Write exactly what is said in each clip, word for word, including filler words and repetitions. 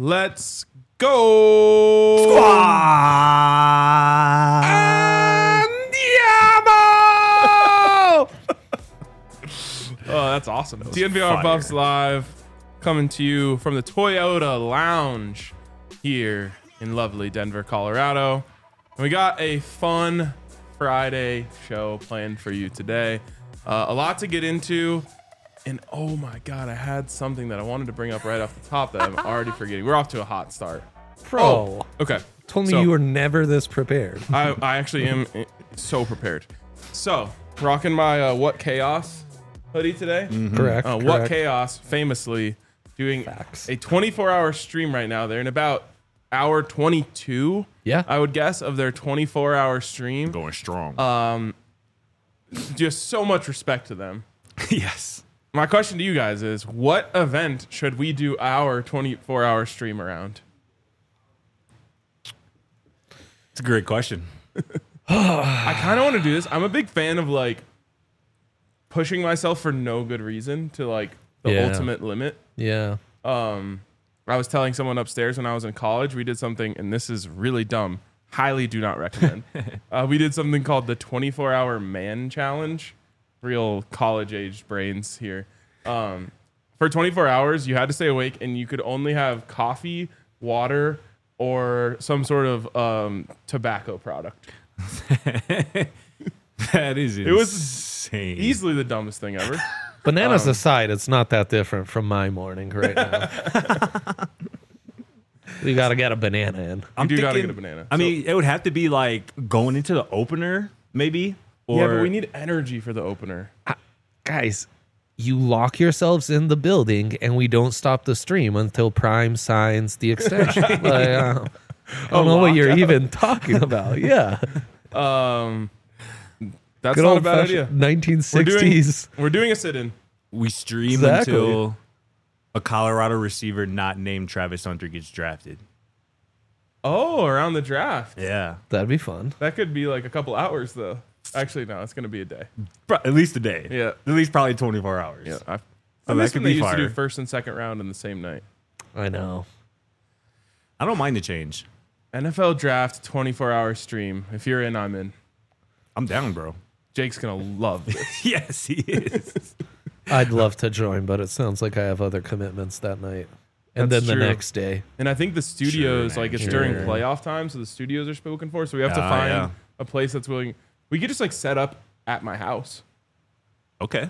Let's go. Squad. Andiamo! Oh, that's awesome. That T N V R fire. Buffs Live coming to you from the Toyota Lounge here in lovely Denver, Colorado. And we got a fun Friday show planned for you today. Uh, a lot to get into. And oh my God, I had something that I wanted to bring up right off the top that I'm already forgetting. We're off to a hot start. Bro, Oh, okay. told me So- you were never this prepared. I, I actually am uh, so prepared. So, rocking my uh, What Chaos hoodie today. Correct. Uh, correct. What Chaos famously doing Facts. a twenty-four hour stream right now. They're in about hour twenty-two, Yeah. I would guess, of their twenty-four hour stream. Going strong. Uh, Just so much respect to them. yes. My question to you guys is, what event should we do our twenty-four hour stream around? It's a great question. I kind of want to do this. I'm a big fan of like pushing myself for no good reason to like the Yeah. ultimate limit. Yeah. Um, I was telling someone upstairs when I was in college, we did something, and this is really dumb. Highly do not recommend. uh, we did something called the twenty-four hour man challenge. Real college aged brains here. Um, for twenty-four hours, you had to stay awake, and you could only have coffee, water, or some sort of um, tobacco product. That is It was insane. Easily the dumbest thing ever. Bananas aside, it's not that different from my morning right now. We got to get a banana in. I'm You do gotta thinking- get a banana. I So- mean, it would have to be like going into the opener, maybe. Or Yeah, but we need energy for the opener. Guys, you lock yourselves in the building and we don't stop the stream until Prime signs the extension. Like, uh, I don't know what you're lockout. even talking about. Yeah. Um, that's Good not a old bad idea. nineteen We're doing, sixties. we're doing a sit-in. we stream Exactly. until a Colorado receiver not named Travis Hunter gets drafted. Oh, around the draft. Yeah. That'd be fun. That could be like a couple hours, though. Actually, no, it's going to be a day. Pro- At least a day. Yeah. At least probably twenty-four hours. Yeah. I, So I that miss could when they be used to do fire. first and second round in the same night. I know. I don't mind the change. N F L draft twenty-four hour stream. If you're in, I'm in. I'm down, bro. Jake's going to love this. Yes, he is. I'd love to join, but it sounds like I have other commitments that night. And That's then the true. next day. And I think the studios, man, like it's sure. during playoff time, so the studios are spoken for. So we have to Ah, find yeah. a place that's willing. We could just like set up at my house. Okay.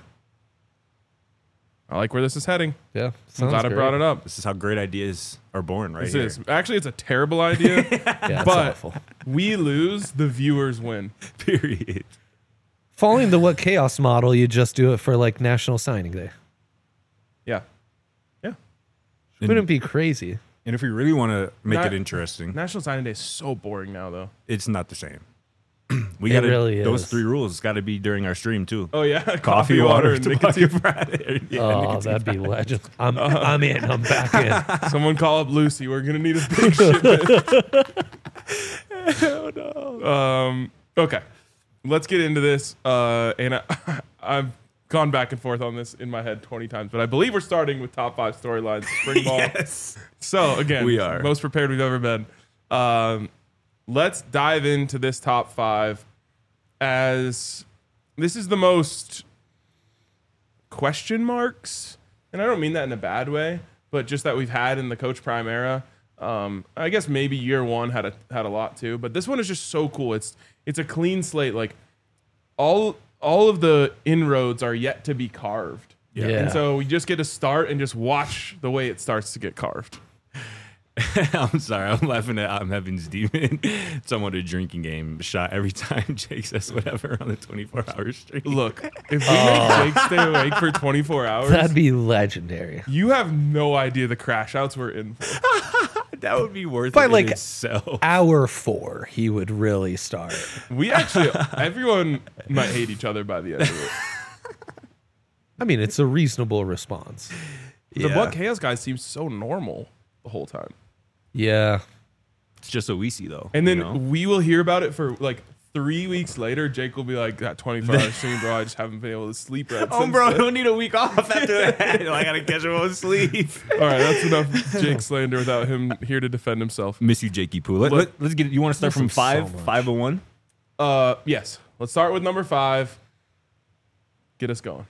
I like where this is heading. Yeah. I'm Sounds glad I great. brought it up. This is how great ideas are born, right This here. is actually it's a terrible idea. Yeah, it's But- awful. We lose, the viewers win. Period. Following the What Chaos model, you just do it for like National Signing Day. Yeah. Yeah. Wouldn't be crazy. And if we really want to make Not- it interesting, National Signing Day is so boring now, though. it's not the same. We It got to really those is. three rules got to be during our stream too. Oh yeah, Coffee, water, and tobacco nicotine. Friday. Yeah, Oh, nicotine that'd be Friday. legend. I'm, I'm in. I'm back in. Someone call up Lucy. We're gonna need a big shipment. oh no. Um. Okay. Let's get into this. Uh. And I, I've gone back and forth on this in my head twenty times, but I believe we're starting with top five storylines. Spring ball. Yes. So again, We are. most prepared we've ever been. Um, let's dive into this top five, as this is the most question marks, and I don't mean that in a bad way, but just that we've had in the Coach Prime era. Um, I guess maybe year one had a had a lot too, but this one is just so cool. It's it's a clean slate. Like all all of the inroads are yet to be carved. Yeah. And so we just get to start and just watch the way it starts to get carved. I'm sorry. I'm laughing at I'm Heaven's Demon. Somewhat a drinking game shot every time Jake says whatever on the twenty-four hour stream. Look, if we make Jake stay awake for twenty-four hours, That'd be legendary. you have no idea the crash outs we're in for. that would be worth But it like- in itself. Hour four, he would really start. We actually, everyone might hate each other by the end of it. I mean, it's a reasonable response. The Yeah. What Chaos guy seems so normal the whole time. Yeah. It's just what we see though. And then you know? we will hear about it for like three weeks later, Jake will be like, that twenty-four hour stream, bro, I just haven't been able to sleep right Oh, since bro, I then." don't need a week off after that. I gotta catch him on sleep. All right, that's enough Jake slander without him here to defend himself. Miss you, Jakey Poo. Let, Look- let, us get. You want to start Miss from him five, so much. five and one? Uh, yes. Let's start with number five. Get us going.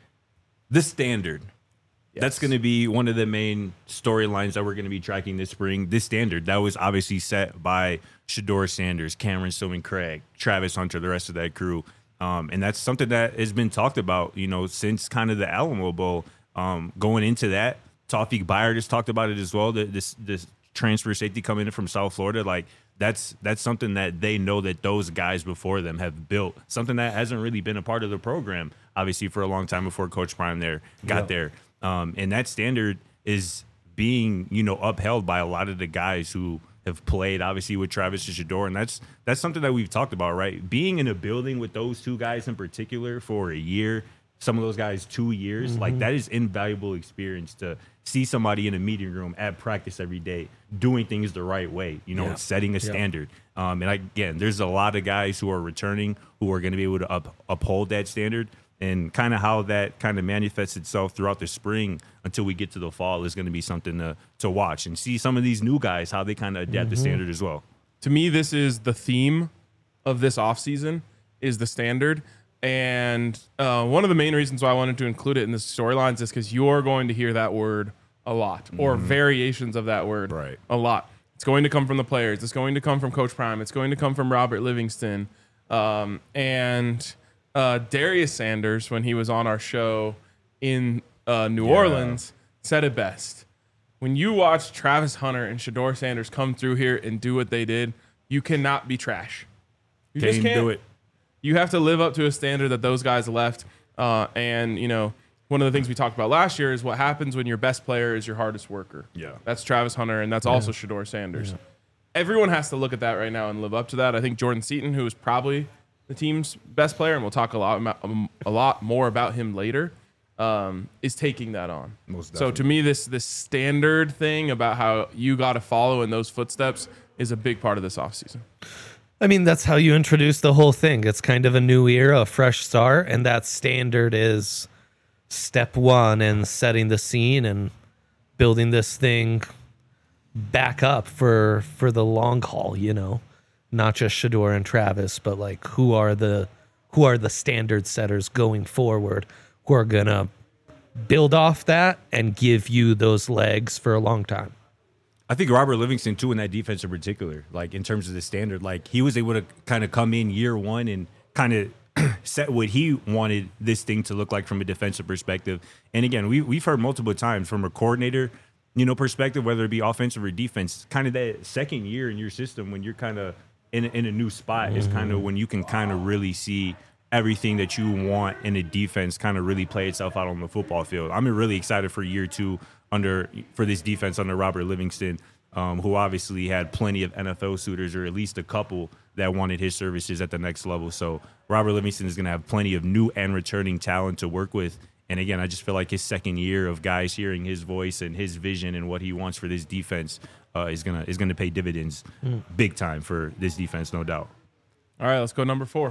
The standard. That's Yes. going to be one of the main storylines that we're going to be tracking this spring. This standard that was obviously set by Shedeur Sanders, Cameron Stillman Craig, Travis Hunter, the rest of that crew. Um, and that's something that has been talked about, you know, since kind of the Alamo Bowl. Um, going into that, Tawfiq Byard has talked about it as well. That this this transfer safety coming in from South Florida, like that's that's something that they know that those guys before them have built. Something that hasn't really been a part of the program, obviously, for a long time before Coach Prime there got Yeah. there. Um, and that standard is being, you know, upheld by a lot of the guys who have played, obviously, with Travis and Shedeur. And that's that's something that we've talked about, right? Being in a building with those two guys in particular for a year, some of those guys two years, Mm-hmm. like that is invaluable experience to see somebody in a meeting room at practice every day doing things the right way, you know, Yeah. and setting a Yeah. standard. Um, and again, there's a lot of guys who are returning who are going to be able to up, uphold that standard. And kind of how that kind of manifests itself throughout the spring until we get to the fall is going to be something to to watch and see some of these new guys, how they kind of adapt the standard as well. To me, this is the theme of this offseason is the standard. And uh, one of the main reasons why I wanted to include it in the storylines is because you're going to hear that word a lot or variations of that word Right. a lot. It's going to come from the players. It's going to come from Coach Prime. It's going to come from Robert Livingston. Um, and uh, Darius Sanders, when he was on our show in uh, New Orleans, said it best. When you watch Travis Hunter and Shedeur Sanders come through here and do what they did, you cannot be trash. You Can't just can't do it. You have to live up to a standard that those guys left. Uh, and, you know, one of the things we talked about last year is what happens when your best player is your hardest worker. Yeah. That's Travis Hunter, and that's also Shedeur Sanders. Everyone has to look at that right now and live up to that. I think Jordan Seaton, who is probably the team's best player, and we'll talk a lot about, um, a lot more about him later, um, is taking that on. Most So to me, this this standard thing about how you got to follow in those footsteps is a big part of this offseason. I mean, that's how you introduce the whole thing. It's kind of a new era, a fresh start, and that standard is step one in setting the scene and building this thing back up for for the long haul, you know. Not just Shedeur and Travis, but like who are the who are the standard setters going forward who are gonna build off that and give you those legs for a long time. I think Robert Livingston too in that defense in particular, like in terms of the standard, like he was able to kind of come in year one and kind of set what he wanted this thing to look like from a defensive perspective. And again, we we've heard multiple times from a coordinator, you know, perspective, whether it be offensive or defense, kind of that second year in your system when you're kind of in in a new spot is kind of when you can kind of really see everything that you want in a defense kind of really play itself out on the football field. I'm really excited for year two under for this defense under Robert Livingston, um, who obviously had plenty of N F L suitors, or at least a couple that wanted his services at the next level. So Robert Livingston is going to have plenty of new and returning talent to work with. And again, I just feel like his second year of guys hearing his voice and his vision and what he wants for this defense uh, is gonna is gonna pay dividends big time for this defense, no doubt. All right, let's go number four.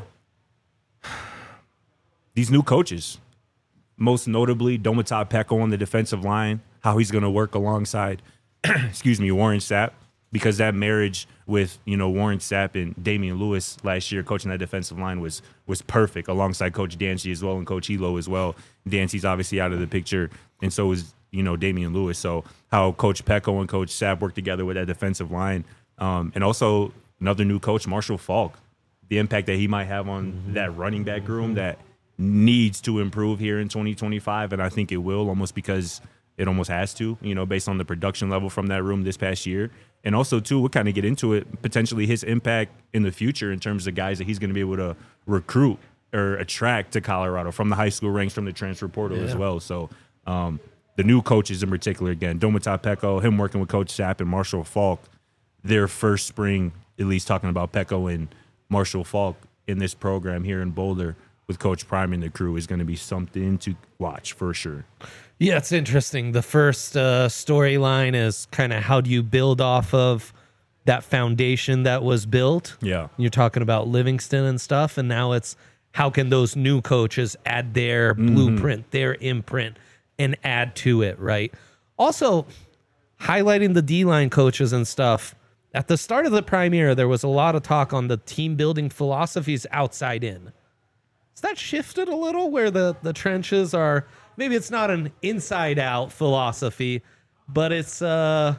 These new coaches, most notably Domata Peko on the defensive line, how he's going to work alongside, excuse me, Warren Sapp, because that marriage with, you know, Warren Sapp and Damian Lewis last year coaching that defensive line was was perfect alongside Coach Dancy as well and Coach Elo as well. Dancy's obviously out of the picture, and so is, you know, Damian Lewis. So how Coach Peko and Coach Sapp work together with that defensive line, um, and also another new coach, Marshall Falk, the impact that he might have on mm-hmm. that running back room that needs to improve here in twenty twenty-five, and I think it will, almost because it almost has to, you know, based on the production level from that room this past year. And also, too, we'll kind of get into it, potentially his impact in the future in terms of guys that he's going to be able to recruit or attract to Colorado from the high school ranks, from the transfer portal yeah. as well. So um, the new coaches in particular, again, Domata Peko, him working with Coach Sapp and Marshall Falk, their first spring, at least talking about Peko and Marshall Falk in this program here in Boulder with Coach Prime and the crew is going to be something to watch for sure. Yeah, it's interesting. The first uh, storyline is kind of how do you build off of that foundation that was built. Yeah. You're talking about Livingston and stuff, and now it's how can those new coaches add their Mm-hmm. blueprint, their imprint, and add to it, right? Also, highlighting the D-line coaches and stuff. At the start of the Prime Era, there was a lot of talk on the team building philosophies outside in. Has that shifted a little where the, the trenches are, maybe it's not an inside out philosophy, but it's uh,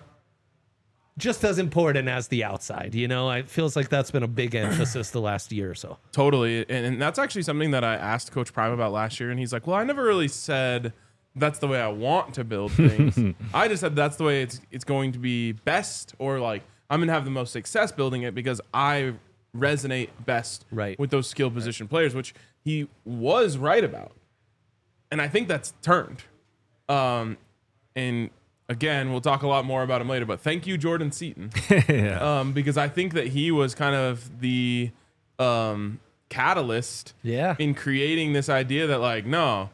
just as important as the outside. You know, it feels like that's been a big emphasis the last year or so. Totally. And, and that's actually something that I asked Coach Prime about last year. And he's like, well, I never really said that's the way I want to build things. I just said that's the way it's it's going to be best, or like I'm going to have the most success building it because I resonate best Right. with those skill position players, which he was right about. And I think that's turned. Um, and again, we'll talk a lot more about him later, but thank you, Jordan Seaton. yeah. um, because I think that he was kind of the um, catalyst Yeah. in creating this idea that, like, no,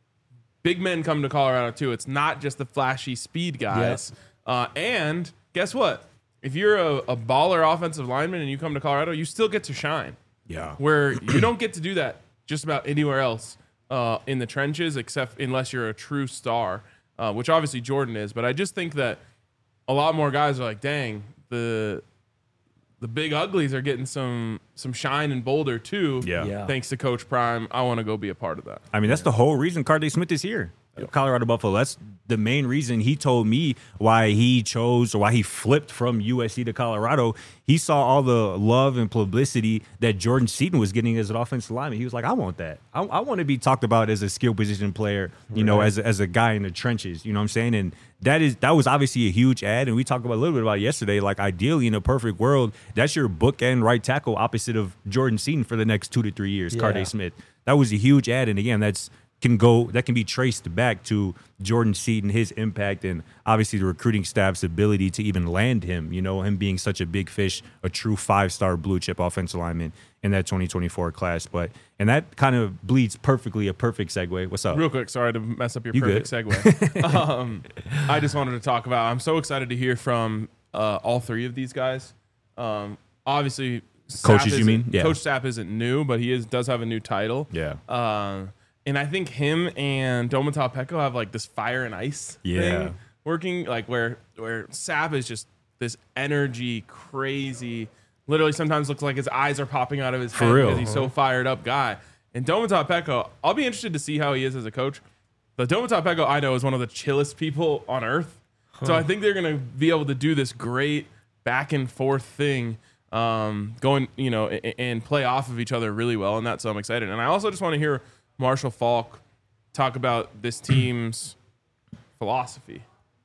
big men come to Colorado too. It's not just the flashy speed guys. Uh, and guess what? If you're a, a baller offensive lineman and you come to Colorado, you still get to shine. Yeah. Where you don't get to do that just about anywhere else uh, in the trenches, except unless you're a true star, uh, which obviously Jordan is. But I just think that a lot more guys are like, dang, the the big uglies are getting some some shine in Boulder too. Yeah. Yeah. Thanks to Coach Prime. I want to go be a part of that. I mean, that's the whole reason Carday Smith is here. Colorado Buffalo. That's the main reason he told me why he chose or why he flipped from U S C to Colorado. He saw all the love and publicity that Jordan Seaton was getting as an offensive lineman. He was like, I want that. I, I want to be talked about as a skill position player, you know, as, as a guy in the trenches. You know what I'm saying? And that is that was obviously a huge ad. And we talked about a little bit about it yesterday. Like, ideally, in a perfect world, that's your bookend right tackle opposite of Jordan Seaton for the next two to three years, Yeah. Carday Smith. That was a huge ad. And again, that's can go that can be traced back to Jordan Seaton, his impact, and obviously the recruiting staff's ability to even land him, you know, him being such a big fish, a true five-star blue chip offensive lineman in that twenty twenty-four class. But and that kind of bleeds perfectly a perfect segue. What's up? Real quick, sorry to mess up your You perfect segue. um, I just wanted to talk about, I'm so excited to hear from uh, all three of these guys. Um, obviously, Coaches, Sapp you mean? isn't- Yeah. Coach Sapp isn't new, but he is does have a new title. Yeah. Uh, and I think him and Domata Peko have like this fire and ice Yeah. thing working, like where where Sapp is just this energy, crazy, literally sometimes looks like his eyes are popping out of his For head real. because he's so fired up guy. And Domata Peko, I'll be interested to see how he is as a coach. But Domata Peko, I know, is one of the chillest people on earth. So I think they're going to be able to do this great back and forth thing, um, going, you know, and, and play off of each other really well. And that's so I'm excited. And I also just want to hear Marshall Falk talk about this team's philosophy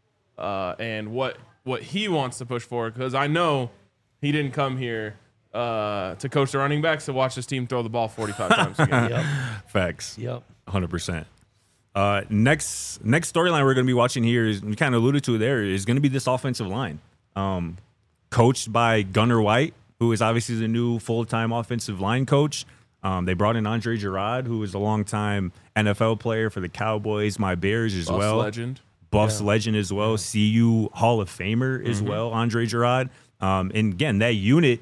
uh, and what what he wants to push for. Because I know he didn't come here uh, to coach the running backs to watch this team throw the ball forty-five times a game. Yep. Facts. Yep. one hundred percent. Uh, next next storyline we're going to be watching here is, we kind of alluded to it there, is going to be this offensive line. Um, coached by Gunnar White, who is obviously the new full-time offensive line coach. Um, they brought in Andre Gerard, who is a longtime N F L player for the Cowboys, my Bears as Buffs well. legend. Buffs legend as well. C U Hall of Famer as well, Andre Gerard. Um, and again, that unit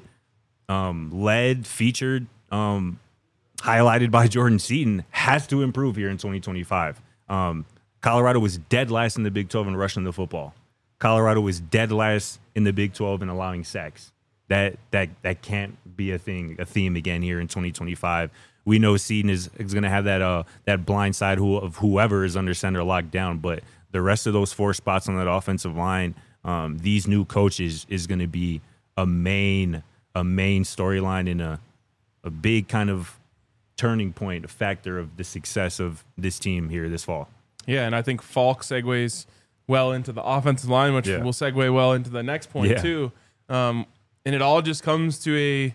um, led, featured, um, highlighted by Jordan Seaton has to improve here in twenty twenty-five. Um, Colorado was dead last in the Big twelve in rushing the football. Colorado was dead last in the Big twelve in allowing sacks. That that that can't be a thing, a theme again here in twenty twenty-five. We know Seaton is, is going to have that uh that blind side who, of whoever is under center locked down, but the rest of those four spots on that offensive line, um, these new coaches is going to be a main a main storyline and a a big kind of turning point, a factor of the success of this team here this fall. Yeah, and I think Falk segues well into the offensive line, which Yeah. will segue well into the next point Yeah. too. Um, and it all just comes to a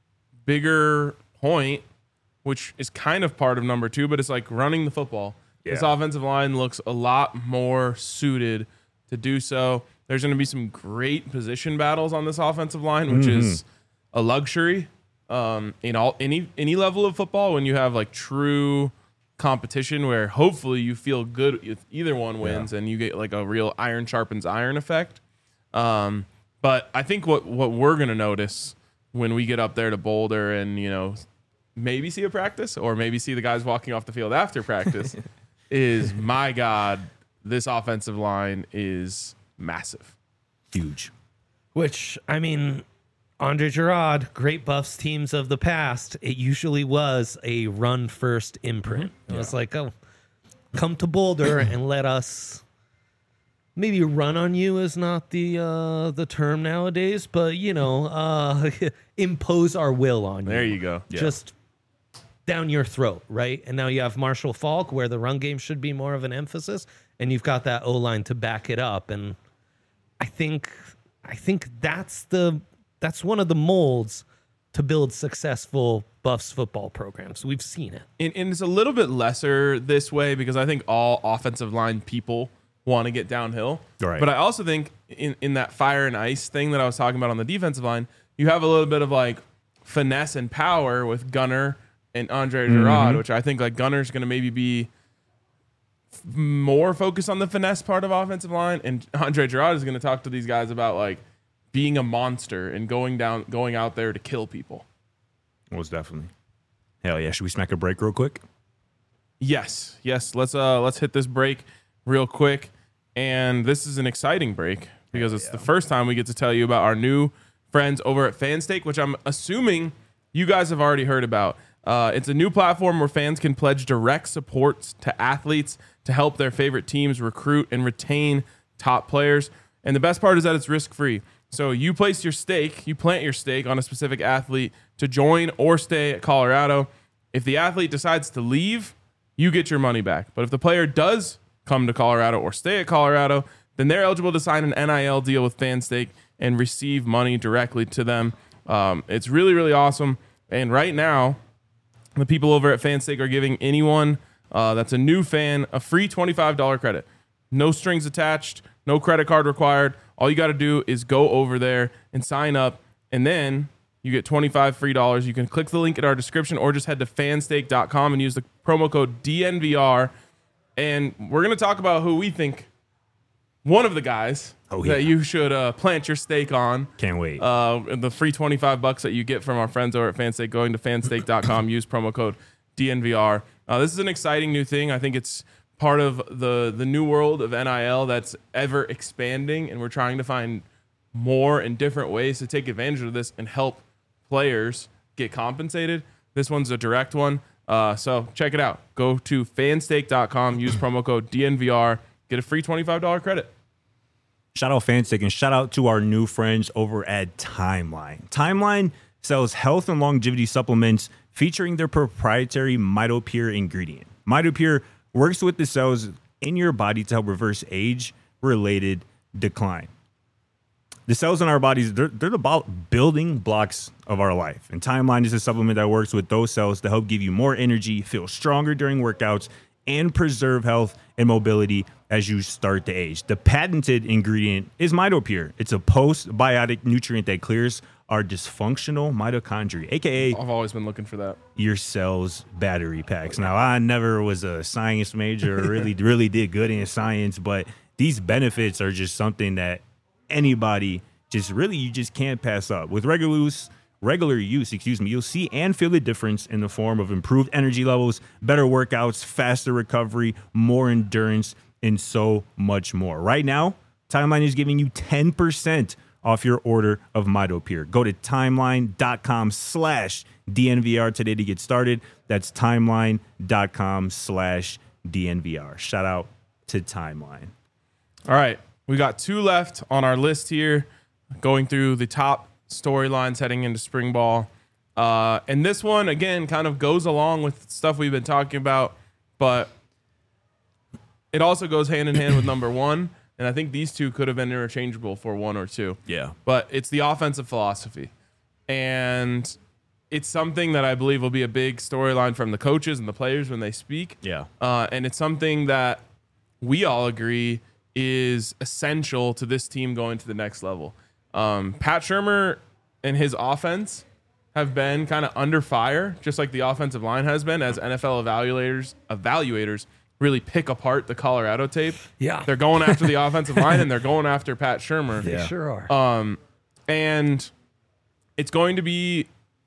bigger point, which is kind of part of number two, but it's like running the football. This Yeah. offensive line looks a lot more suited to do so. There's going to be some great position battles on this offensive line, which is a luxury um, in all any any level of football when you have like true competition where hopefully you feel good if either one wins and you get like a real iron sharpens iron effect. Um, But I think what, what we're going to notice when we get up there to Boulder and, you know, maybe see a practice or maybe see the guys walking off the field after practice is, my God, this offensive line is massive. Huge. Which, I mean, Andre Gerard, great Buffs teams of the past, it usually was a run-first imprint. Mm-hmm. It was like, oh, come to Boulder and let us... Maybe run on you is not the uh, the term nowadays, but, you know, uh, impose our will on you. There you go. Yeah. Just down your throat, right? And now you have Marshall Faulk, where the run game should be more of an emphasis, and you've got that O-line to back it up. And I think I think that's the that's one of the molds to build successful Buffs football programs. We've seen it. And, and it's a little bit lesser this way because I think all offensive line people want to get downhill. Right. But I also think in, in that fire and ice thing that I was talking about on the defensive line, you have a little bit of like finesse and power with Gunner and Andre Gerard, mm-hmm. which I think like Gunner's going to maybe be f- more focused on the finesse part of offensive line. And Andre Gerard is going to talk to these guys about like being a monster and going down, going out there to kill people. Most definitely. Hell yeah. Should we smack a break real quick? Yes. Yes. Let's, uh, let's hit this break real quick. And this is an exciting break because it's yeah. the first time we get to tell you about our new friends over at FanStake, which I'm assuming you guys have already heard about. Uh, it's a new platform where fans can pledge direct support to athletes to help their favorite teams recruit and retain top players. And the best part is that it's risk-free. So you place your stake, you plant your stake on a specific athlete to join or stay at Colorado. If the athlete decides to leave, you get your money back. But if the player does come to Colorado or stay at Colorado, then they're eligible to sign an N I L deal with FanStake and receive money directly to them. Um, it's really, really awesome. And right now, the people over at FanStake are giving anyone uh, that's a new fan a free twenty-five dollars credit. No strings attached, no credit card required. All you got to do is go over there and sign up, and then you get twenty-five free dollars. You can click the link in our description or just head to fanstake dot com and use the promo code D N V R. And we're going to talk about who we think one of the guys oh, yeah. that you should uh, plant your stake on. Can't wait. Uh, the free twenty-five bucks that you get from our friends over at FanStake, going to fanstake dot com, use promo code D N V R. Uh, this is an exciting new thing. I think it's part of the, the new world of N I L that's ever expanding, and we're trying to find more and different ways to take advantage of this and help players get compensated. This one's a direct one. Uh, so check it out. Go to fanstake dot com, use promo code D N V R, get a free twenty-five dollars credit. Shout out FanStake and shout out to our new friends over at Timeline. Timeline sells health and longevity supplements featuring their proprietary MitoPure ingredient. MitoPure works with the cells in your body to help reverse age-related decline. The cells in our bodies, they're, they're the building blocks of our life. And Timeline is a supplement that works with those cells to help give you more energy, feel stronger during workouts, and preserve health and mobility as you start to age. The patented ingredient is MitoPure. It's a postbiotic nutrient that clears our dysfunctional mitochondria, a k a. I've always been looking for that. Your cell's battery packs. Now, I never was a science major or really, really did good in science, but these benefits are just something that anybody just really you just can't pass up. With regular use, regular use, excuse me, you'll see and feel the difference in the form of improved energy levels, better workouts, faster recovery, more endurance, and so much more. Right now, Timeline is giving you ten percent off your order of MitoPure. Go to timeline dot com slash D N V R today to get started. That's timeline dot com slash D N V R. Shout out to Timeline. All right. We got two left on our list here, going through the top storylines heading into spring ball. Uh, and this one, again, kind of goes along with stuff we've been talking about, but it also goes hand in hand with number one. And I think these two could have been interchangeable for one or two. Yeah. But it's the offensive philosophy. And it's something that I believe will be a big storyline from the coaches and the players when they speak. Yeah. Uh, and it's something that we all agree is essential to this team going to the next level. Um, Pat Shurmur and his offense have been kind of under fire, just like the offensive line has been, as N F L evaluators evaluators really pick apart the Colorado tape. Yeah. They're going after the offensive line, and they're going after Pat Shurmur. They Yeah. sure are. Um, And it's going to be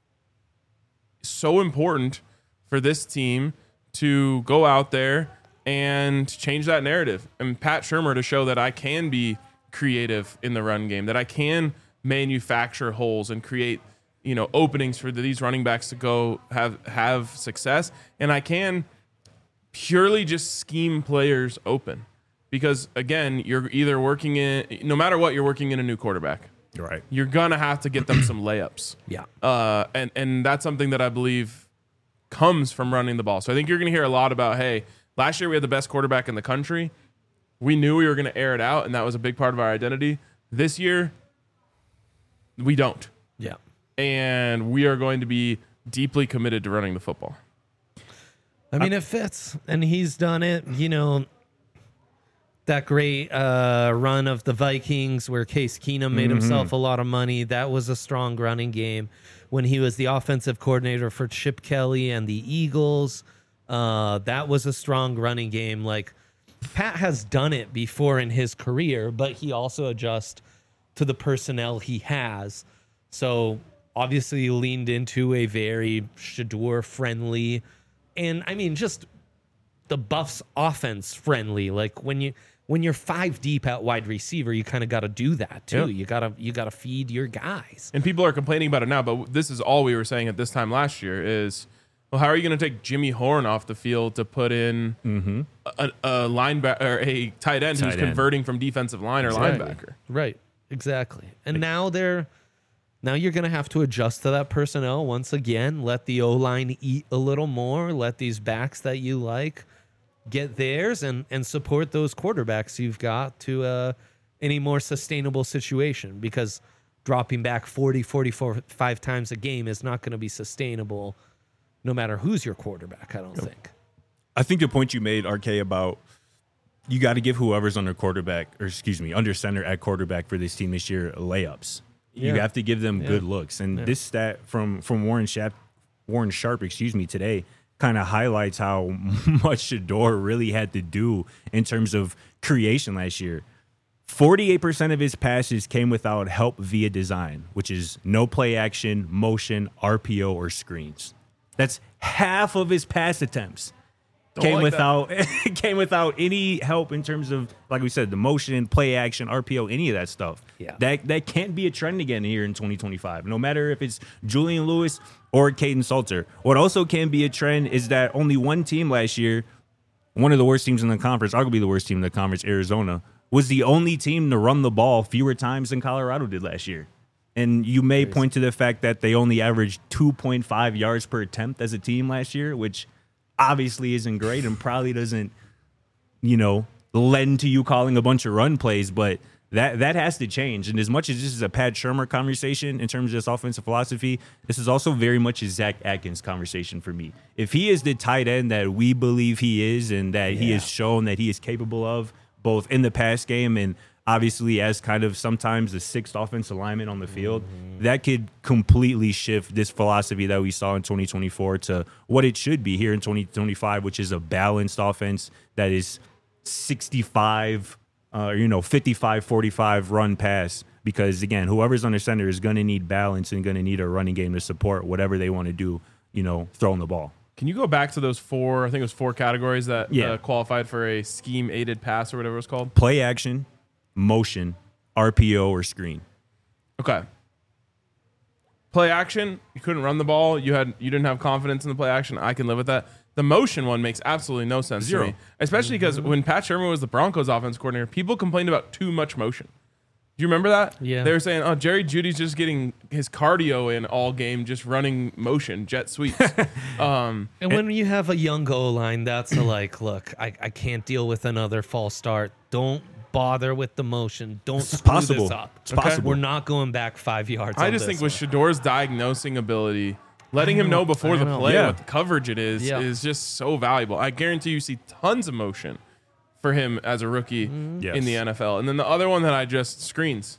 so important for this team to go out there and change that narrative. And Pat Shurmur to show that I can be creative in the run game, that I can manufacture holes and create, you know, openings for these running backs to go have have success. And I can purely just scheme players open. Because again, you're either working in, no matter what, you're working in a new quarterback. Right. You're gonna have to get them some layups. Yeah. Uh, and and that's something that I believe comes from running the ball. So I think you're gonna hear a lot about, hey, last year we had the best quarterback in the country. We knew we were gonna air it out, and that was a big part of our identity. This year, we don't. Yeah. And we are going to be deeply committed to running the football. I mean, it fits, and he's done it. You know, that great uh, run of the Vikings where Case Keenum made Mm-hmm. himself a lot of money. That was a strong running game. When he was the offensive coordinator for Chip Kelly and the Eagles, uh, that was a strong running game. Like, Pat has done it before in his career, but he also adjusts to the personnel he has. So obviously he leaned into a very Shador friendly, and I mean, just the Buffs offense friendly. Like when you when you're five deep at wide receiver, you kind of got to do that too. Yep. You gotta you gotta feed your guys. And people are complaining about it now, but this is all we were saying at this time last year is, well, how are you going to take Jimmy Horn off the field to put in a, a linebacker or a tight end Tight who's end. converting from defensive line or Exactly. linebacker? Right. Exactly. And now they're now you're gonna have to adjust to that personnel once again. Let the O line eat a little more. Let these backs that you like get theirs, and and support those quarterbacks you've got to uh, any more sustainable situation. Because dropping back forty, forty-four, five times a game is not going to be sustainable, no matter who's your quarterback. I don't think. I think the point you made, R K, about you got to give whoever's under quarterback, or excuse me, under center at quarterback for this team this year layups. You Yeah. have to give them Yeah. good looks. And Yeah. this stat from from Warren Sharp, Warren Sharp, excuse me, today kind of highlights how much Shador really had to do in terms of creation last year. forty-eight percent of his passes came without help via design, which is no play action, motion, R P O, or screens. That's half of his pass attempts. Came like without came without any help in terms of, like we said, the motion, play action, R P O, any of that stuff. Yeah. That that can't be a trend again here in twenty twenty-five. No matter if it's Julian Lewis or Caden Salter. What also can be a trend is that only one team last year, one of the worst teams in the conference, arguably the worst team in the conference, Arizona, was the only team to run the ball fewer times than Colorado did last year. And you may point to the fact that they only averaged two point five yards per attempt as a team last year, which obviously isn't great and probably doesn't, you know, lend to you calling a bunch of run plays, but that that has to change. And as much as this is a Pat Shurmur conversation in terms of this offensive philosophy, this is also very much a Zach Atkins conversation for me. If he is the tight end that we believe he is and that he has shown that he is capable of, both in the pass game and obviously as kind of sometimes the sixth offensive lineman on the field, that could completely shift this philosophy that we saw in twenty twenty-four to what it should be here in twenty twenty-five, which is a balanced offense that is sixty-five, uh, you know, fifty-five forty-five run pass. Because, again, whoever's under center is going to need balance and going to need a running game to support whatever they want to do, you know, throwing the ball. Can you go back to those four, I think it was four categories that Yeah. uh, qualified for a scheme-aided pass or whatever it was called? Play action, motion, R P O, or screen. Okay. Play action, you couldn't run the ball. You had you didn't have confidence in the play action. I can live with that. The motion one makes absolutely no sense Zero. to me, especially because when Pat Shurmur was the Broncos offense coordinator, people complained about too much motion. Do you remember that? Yeah. They were saying, "Oh, Jerry Judy's just getting his cardio in all game, just running motion, jet sweeps." um, And when you have a young O line, that's a like, look, I, I can't deal with another false start. Don't bother with the motion. Don't It's screw possible. this up. It's possible. We're not going back five yards. I on just this think with one. Shador's diagnosing ability, letting I him know know, before I the know. play Yeah. what the coverage it is Yeah. is just so valuable. I guarantee you see tons of motion for him as a rookie Yes. in the N F L. And then the other one that I just screens.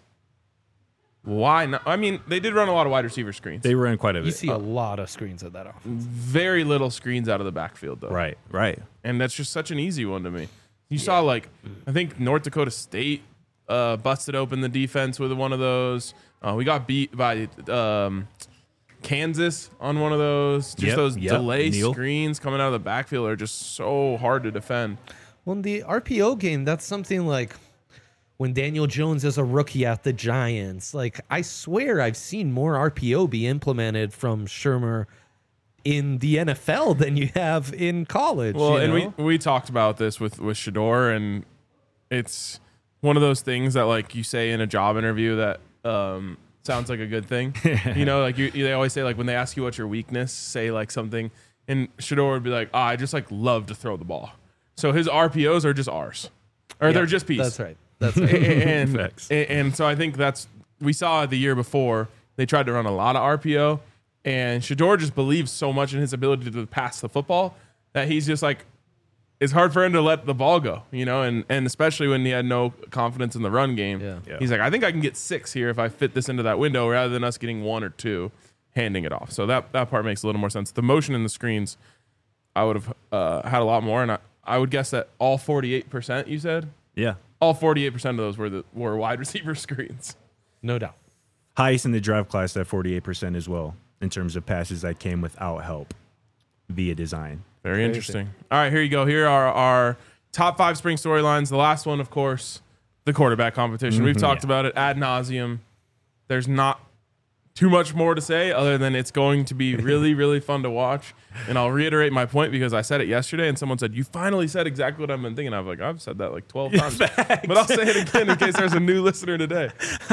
Why not? I mean, they did run a lot of wide receiver screens. They ran quite a You bit. see a lot of screens at that offense. Very little screens out of the backfield, though. Right, right. And that's just such an easy one to me. You saw, like, I think North Dakota State uh, busted open the defense with one of those. Uh, we got beat by um, Kansas on one of those. Just Yep, those yep, delay Neil. screens coming out of the backfield are just so hard to defend. Well, in the R P O game, that's something like when Daniel Jones is a rookie at the Giants. Like, I swear I've seen more R P O be implemented from Shermer in the N F L than you have in college. Well, you and know? we we talked about this with with Shador, and it's one of those things that like you say in a job interview that um, sounds like a good thing. You know, like you, they always say like when they ask you what's your weakness, say like something, and Shador would be like, oh, I just like love to throw the ball. So his R P Os are just R's, or Yeah, they're just P's. That's right. That's right. and, Facts. and and so I think that's we saw it the year before they tried to run a lot of R P O, and Shador just believes so much in his ability to pass the football that he's just like it's hard for him to let the ball go, you know, and and especially when he had no confidence in the run game. Yeah. Yeah. He's like, I think I can get six here if I fit this into that window rather than us getting one or two handing it off. So that that part makes a little more sense. The motion in the screens, I would have uh, had a lot more, and I, I would guess that all forty-eight percent you said. Yeah. All forty-eight percent of those were the were wide receiver screens. No doubt. Highest in the draft class at forty-eight percent as well in terms of passes that came without help via design. Very interesting. All right, here you go. Here are our top five spring storylines. The last one, of course, the quarterback competition. We've talked yeah. about it ad nauseum. There's not too much more to say other than it's going to be really, really fun to watch. And I'll reiterate my point because I said it yesterday and someone said, you finally said exactly what I've been thinking. I was like, I've said that like twelve times. But I'll say it again in case there's a new listener today.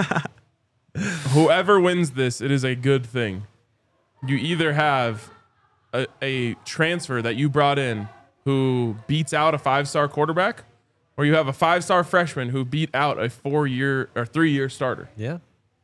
Whoever wins this, it is a good thing. You either have a, a transfer that you brought in who beats out a five-star quarterback, or you have a five-star freshman who beat out a four-year or three-year starter. Yeah.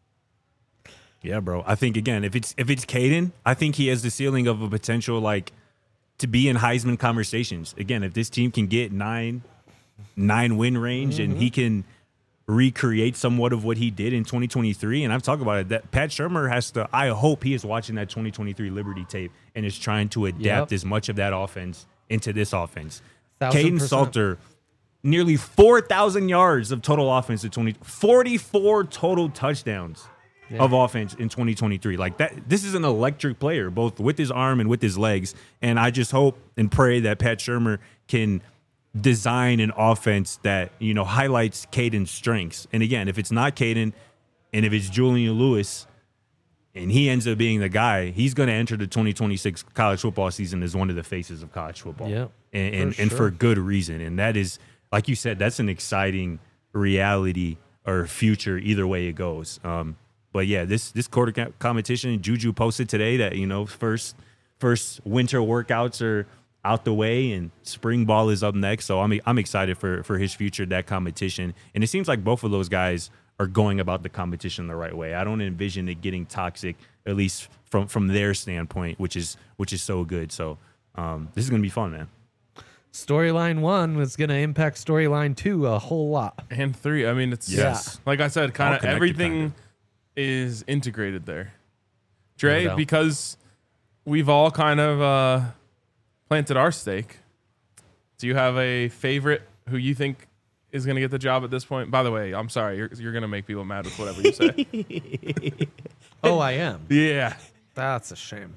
Yeah, bro. I think again, if it's if it's Caden, I think he has the ceiling of a potential like to be in Heisman conversations. Again, if this team can get nine nine win range Mm-hmm. and he can recreate somewhat of what he did in twenty twenty-three, and I've talked about it, that Pat Shurmur has to. I hope he is watching that twenty twenty-three Liberty tape and is trying to adapt Yep. as much of that offense into this offense. Thousand Caden percent. Salter. Nearly four thousand yards of total offense in twenty, forty-four total touchdowns Yeah. of offense in twenty twenty-three. Like that, this is an electric player, both with his arm and with his legs. And I just hope and pray that Pat Shurmur can design an offense that, you know, highlights Caden's strengths. And again, if it's not Caden and if it's Julian Lewis and he ends up being the guy, he's going to enter the twenty twenty-six college football season as one of the faces of college football. Yeah, And, and, for and sure. for good reason. And that is, like you said, that's an exciting reality or future either way it goes. Um, But yeah, this this quarter co- competition, Juju posted today that, you know, first first winter workouts are out the way and spring ball is up next. So I'm I'm excited for for his future, that competition. And it seems like both of those guys are going about the competition the right way. I don't envision it getting toxic, at least from from their standpoint, which is which is so good. So um, this is gonna be fun, man. Storyline one was going to impact storyline two a whole lot. And three. I mean, it's Yes. like I said, kind All of connected, everything kinda. is integrated there. Dre, No doubt. because we've all kind of uh, planted our stake. Do you have a favorite who you think is going to get the job at this point? By the way, I'm sorry, you're you're going to make people mad with whatever you say. Oh, I am. Yeah. That's a shame.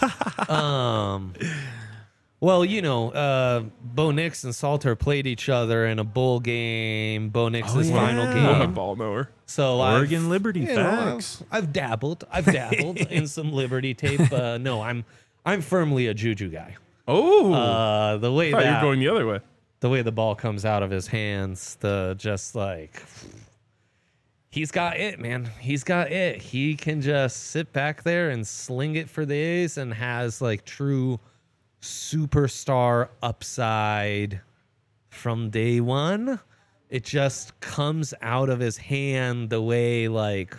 um, well, you know, uh, Bo Nix and Salter played each other in a bowl game. Bo Nix's Oh, yeah. final I'm a game. ball knower. So Oregon I've, Liberty, you know, facts. I've, I've dabbled. I've dabbled in some Liberty tape. Uh, no, I'm I'm firmly a Juju guy. Oh, Uh, the way I thought you were that going the other way. the way the ball comes out of his hands, the just like he's got it, man. He's got it. He can just sit back there and sling it for the A's and has like true superstar upside from day one. It just comes out of his hand the way like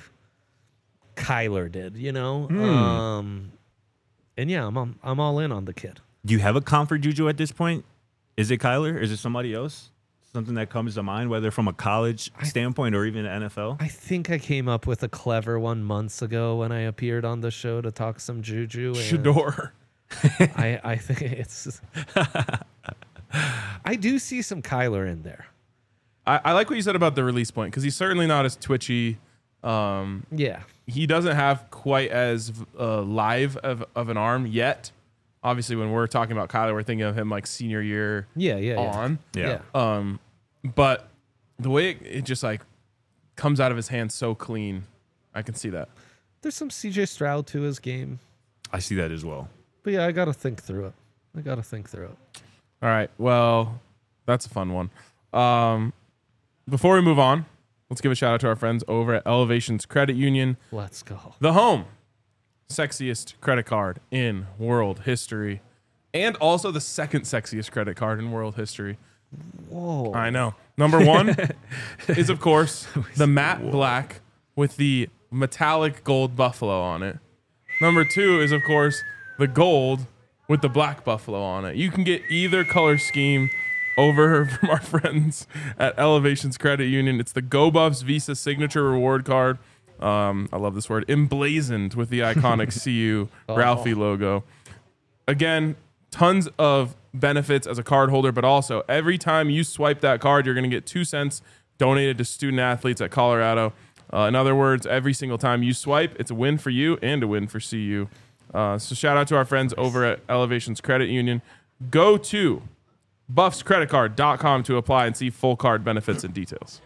Kyler did, you know? Um and yeah, I'm I'm, I'm all in on the kid. Do you have a comfort Juju at this point? Is it Kyler? Is it somebody else? Something that comes to mind, whether from a college standpoint or even N F L? I think I came up with a clever one months ago when I appeared on the show to talk some Juju. And Shador. I, I think it's. I do see some Kyler in there. I, I like what you said about the release point because he's certainly not as twitchy. Um, Yeah. he doesn't have quite as uh, live of, of an arm yet. Obviously, when we're talking about Kyler, we're thinking of him like senior year Yeah, yeah, yeah. on. Yeah. Um, but the way it, it just like comes out of his hands so clean, I can see that. There's some C J Stroud to his game. I see that as well. But yeah, I got to think through it. I got to think through it. All right. Well, that's a fun one. Um, before we move on, let's give a shout out to our friends over at Elevations Credit Union, Let's go. the home sexiest credit card in world history, and also the second sexiest credit card in world history. Whoa. I know. Number one is, of course, the matte black with the metallic gold buffalo on it. Number two is, of course, the gold with the black buffalo on it. You can get either color scheme over from our friends at Elevations Credit Union. It's the Go Buffs Visa Signature Reward Card. Um, I love this word. Emblazoned with the iconic C U Ralphie logo. Again, tons of benefits as a card holder, but also every time you swipe that card, you're going to get two cents donated to student athletes at Colorado. Uh, in other words, every single time you swipe, it's a win for you and a win for C U. Uh, so shout out to our friends over at Elevations Credit Union. Go to buffs credit card dot com to apply and see full card benefits and details.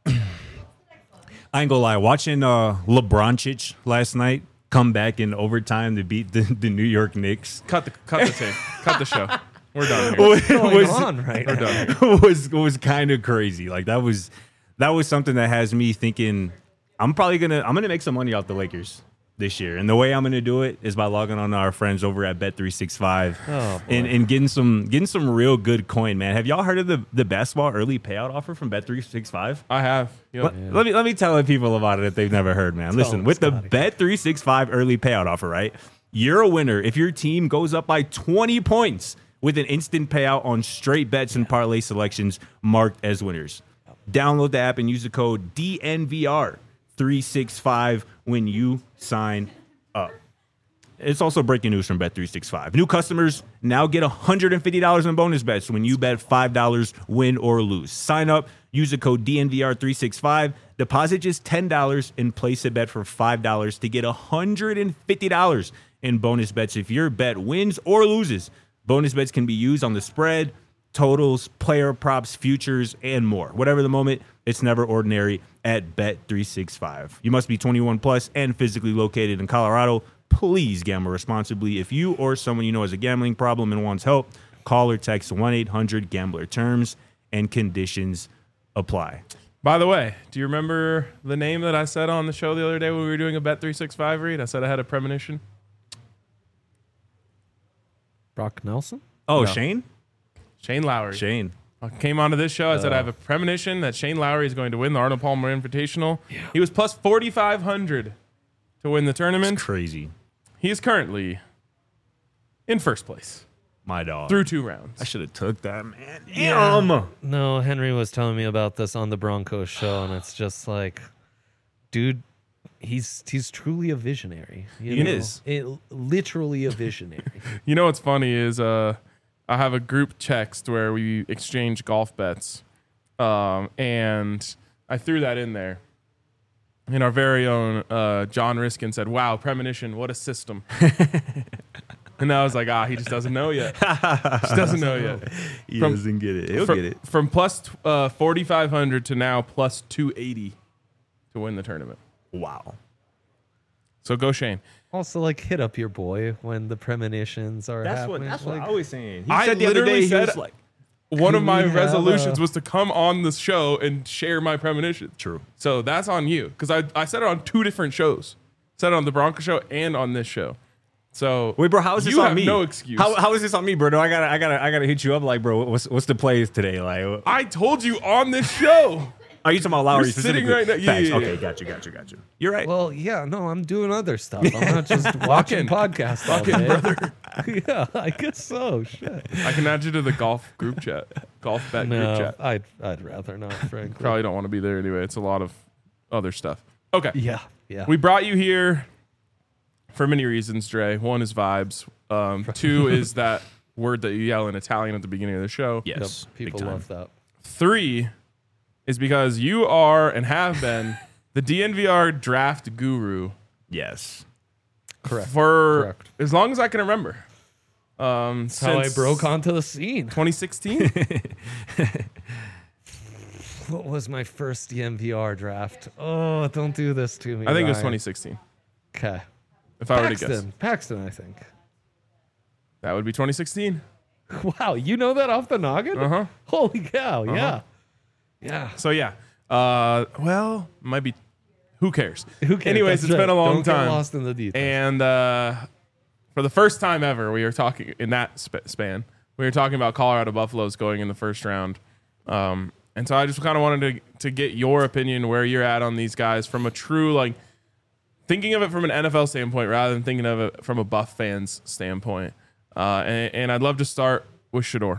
I ain't gonna lie, watching uh, LeBroncic last night come back in overtime to beat the, the New York Knicks Cut the cut the tape. Cut the show. We're done here. What's going was, on right We're now? done here. was was kind of crazy. Like that was that was something that has me thinking I'm probably gonna I'm gonna make some money off the Lakers this year, and the way I'm gonna do it is by logging on to our friends over at Bet three sixty-five Oh, boy. and and getting some getting some real good coin, man. Have y'all heard of the the basketball early payout offer from Bet three sixty-five? I have. Yep. Let, let me let me tell the people about it if they've never heard, man. Listen, them, with the Scotty. Bet three sixty-five early payout offer, right? You're a winner if your team goes up by twenty points with an instant payout on straight bets and parlay selections marked as winners. Download the app and use the code D N V R three sixty-five when you sign up. It's also breaking news from Bet three sixty-five. New customers now get one hundred fifty dollars in bonus bets when you bet five dollars, win or lose. Sign up, use the code D N V R three sixty-five, deposit just ten dollars, and place a bet for five dollars to get one hundred fifty dollars in bonus bets if your bet wins or loses. Bonus bets can be used on the spread, totals, player props, futures, and more. Whatever the moment, it's never ordinary at Bet three sixty-five. You must be twenty-one plus and physically located in Colorado. Please gamble responsibly. If you or someone you know has a gambling problem and wants help, call or text one eight hundred gambler. Terms and conditions apply. By the way, do you remember the name that I said on the show the other day when we were doing a Bet three sixty-five read? I said I had a premonition. Brock Nelson? Oh, No. Shane? Shane Lowry. Shane. I came onto this show. I said I have a premonition that Shane Lowry is going to win the Arnold Palmer Invitational. He was plus forty-five hundred to win the tournament. Crazy. He is currently in first place My dog. through two rounds. I should have took that, man. Yeah. Damn. No, Henry was telling me about this on the Broncos show, and it's just like, dude, he's he's truly a visionary. You He know? is. It, literally a visionary. You know what's funny is uh, I have a group text where we exchange golf bets, um, and I threw that in there. And our very own uh, John Riskin said, "Wow, premonition, what a system!" And I was like, "Ah, he just doesn't know yet. Just doesn't know yet." He From- doesn't get it. He'll from, get it. From plus t- uh, forty-five hundred to now plus two eighty to win the tournament. Wow. So go Shane. Also, like, hit up your boy when the premonitions are That's what happening. that's like, what I was saying. He I said the other literally day, he said- was like, One of my we have resolutions a- was to come on the show and share my premonition. True. So that's on you because I, I said it on two different shows. Said it on the Bronco show and on this show. So Wait, bro, how is this you on have me? no excuse. How, how is this on me, bro? No, I gotta, I gotta, I gotta hit you up. Like, bro, what's what's the plays today? Like, I told you on this show. are you talking about Lowry You're sitting specifically? right now- yeah, Facts. yeah, yeah. Okay, got you, got you, got you. You're right. well, yeah, no, I'm doing other stuff. I'm not just watching podcasts all day. brother. Yeah, I guess so. Shit. I can add you to the golf group chat, golf bet group No, chat. I'd I'd rather not, frankly. Probably don't want to be there anyway. It's a lot of other stuff. Okay. Yeah, yeah. We brought you here for many reasons, Dre. One is vibes. Um, two is that word that you yell in Italian at the beginning of the show. Yep, yes, big people time. love that. Three is because you are and have been the D N V R draft guru Yes. Correct. for Correct. as long as I can remember. Um, That's how I since broke onto the scene. twenty sixteen. What was my first D N V R draft? Oh, don't do this to me. I think it was Ryan. twenty sixteen. Okay. If I were to guess, Paxton. Paxton, I think. that would be twenty sixteen. Wow, you know that off the noggin? Uh huh. Holy cow, yeah. Yeah. So yeah. Uh, well, might be. Who cares? Who cares? Anyways, That's it's right. been a long Don't get time. lost in the details. And uh, for the first time ever, we are talking in that sp- span. We were talking about Colorado Buffaloes going in the first round. Um, and so I just kind of wanted to to get your opinion where you're at on these guys from a true, like, thinking of it from an N F L standpoint rather than thinking of it from a Buff fans standpoint. Uh, and, and I'd love to start with Shedeur.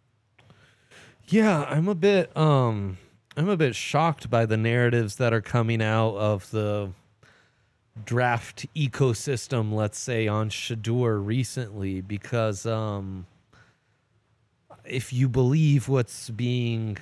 Yeah, I'm a bit um I'm a bit shocked by the narratives that are coming out of the draft ecosystem, let's say, on Shedeur recently, because um if you believe what's being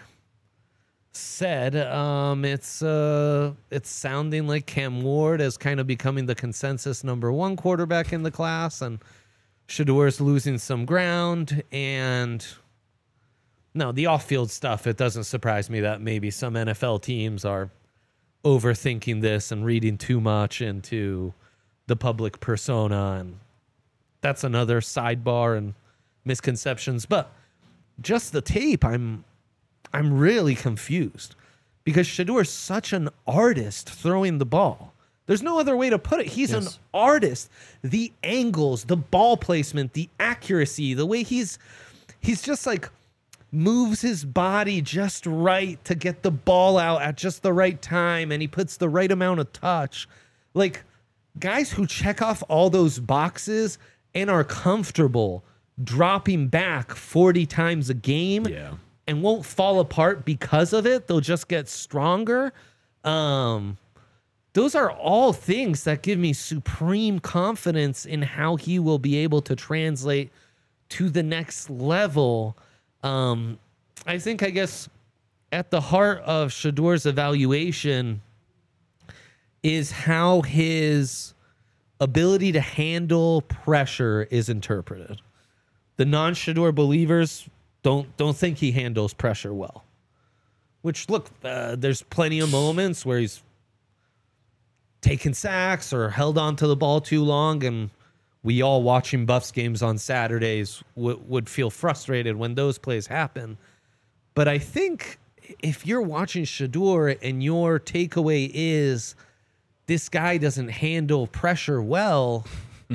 said, um it's uh it's sounding like Cam Ward is kind of becoming the consensus number one quarterback in the class, and Shedeur's losing some ground. And no, the off-field stuff, it doesn't surprise me that maybe some N F L teams are overthinking this and reading too much into the public persona, and that's another sidebar and misconceptions. But just the tape, I'm I'm really confused, because Shedeur's such an artist throwing the ball. There's no other way to put it. He's Yes. an artist. The angles, the ball placement, the accuracy, the way he's he's just like moves his body just right to get the ball out at just the right time, and he puts the right amount of touch. Like, guys who check off all those boxes and are comfortable dropping back forty times a game Yeah. and won't fall apart because of it, they'll just get stronger. Um, those are all things that give me supreme confidence in how he will be able to translate to the next level. Um, I think, I guess, at the heart of Shedeur's evaluation is how his ability to handle pressure is interpreted. The non-Shedeur believers don't don't think he handles pressure well. Which, look, uh, there's plenty of moments where he's taken sacks or held on to the ball too long, and we all watching Buffs games on Saturdays w- would feel frustrated when those plays happen. But I think if you're watching Shedeur and your takeaway is this guy doesn't handle pressure well,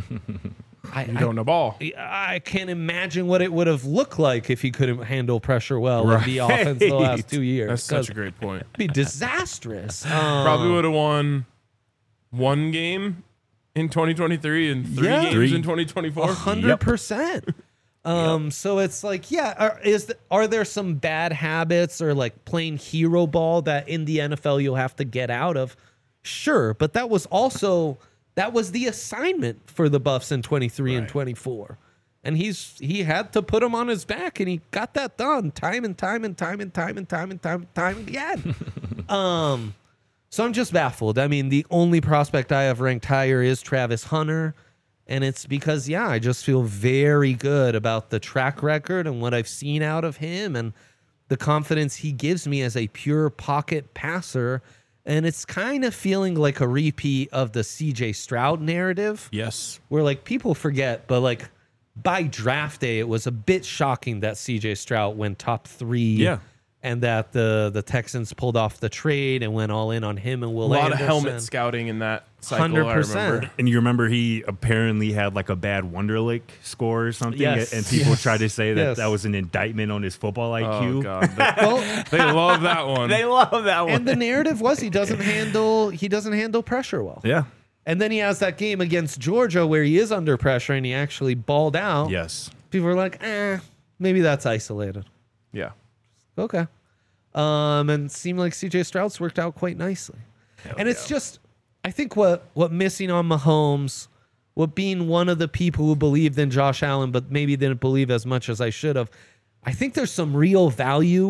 I, You don't know ball. I, I can't imagine what it would have looked like if he couldn't handle pressure well in the Right. offense the last two years. That's such 'Cause a great point. it'd be disastrous. Um, Probably would have won one game in twenty twenty-three and three Yeah. games Three. in twenty twenty-four. A hundred percent. Um, so it's like, yeah, are, is the, are there some bad habits or like playing hero ball that in the N F L you'll have to get out of? Sure, but that was also that was the assignment for the Buffs in twenty-three and Right. twenty-four, and he's he had to put him on his back, and he got that done time and time and time and time and time and time and time again. um. So I'm just baffled. I mean, the only prospect I have ranked higher is Travis Hunter. And it's because, yeah, I just feel very good about the track record and what I've seen out of him and the confidence he gives me as a pure pocket passer. And it's kind of feeling like a repeat of the C J Stroud narrative, Yes. where like people forget, but like by draft day, it was a bit shocking that C J Stroud went top three. Yeah. And that the the Texans pulled off the trade and went all in on him and A Will lot Anderson. of helmet scouting in that cycle. one hundred I percent. remember. And you remember he apparently had like a bad Wonderlic score or something, Yes. and people Yes. tried to say that Yes. that was an indictment on his football I Q. Oh god, they, Well, they love that one. They love that one. and the narrative was he doesn't handle he doesn't handle pressure well. yeah. And then he has that game against Georgia where he is under pressure and he actually balled out. Yes. People are like, eh, maybe that's isolated. Yeah. Okay. Um, and it seemed like C J Stroud's worked out quite nicely. and it's just, I think what what missing on Mahomes, what being one of the people who believed in Josh Allen, but maybe didn't believe as much as I should have, I think there's some real value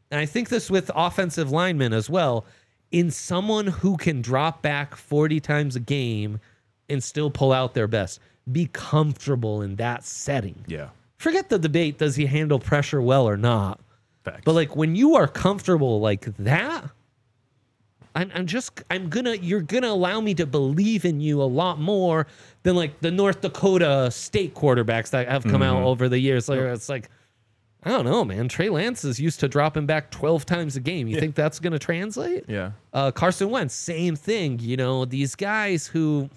and I think this with offensive linemen as well, in someone who can drop back forty times a game and still pull out their best. Be comfortable in that setting. Yeah. Forget the debate, does he handle pressure well or not? Facts. But like when you are comfortable like that, I'm, I'm just, I'm gonna, you're gonna allow me to believe in you a lot more than like the North Dakota State quarterbacks that have come Mm-hmm. out over the years. Like, it's like, I don't know, man. Trey Lance is used to dropping back twelve times a game. You Yeah. think that's gonna translate? Yeah. Uh, Carson Wentz, same thing. You know, these guys who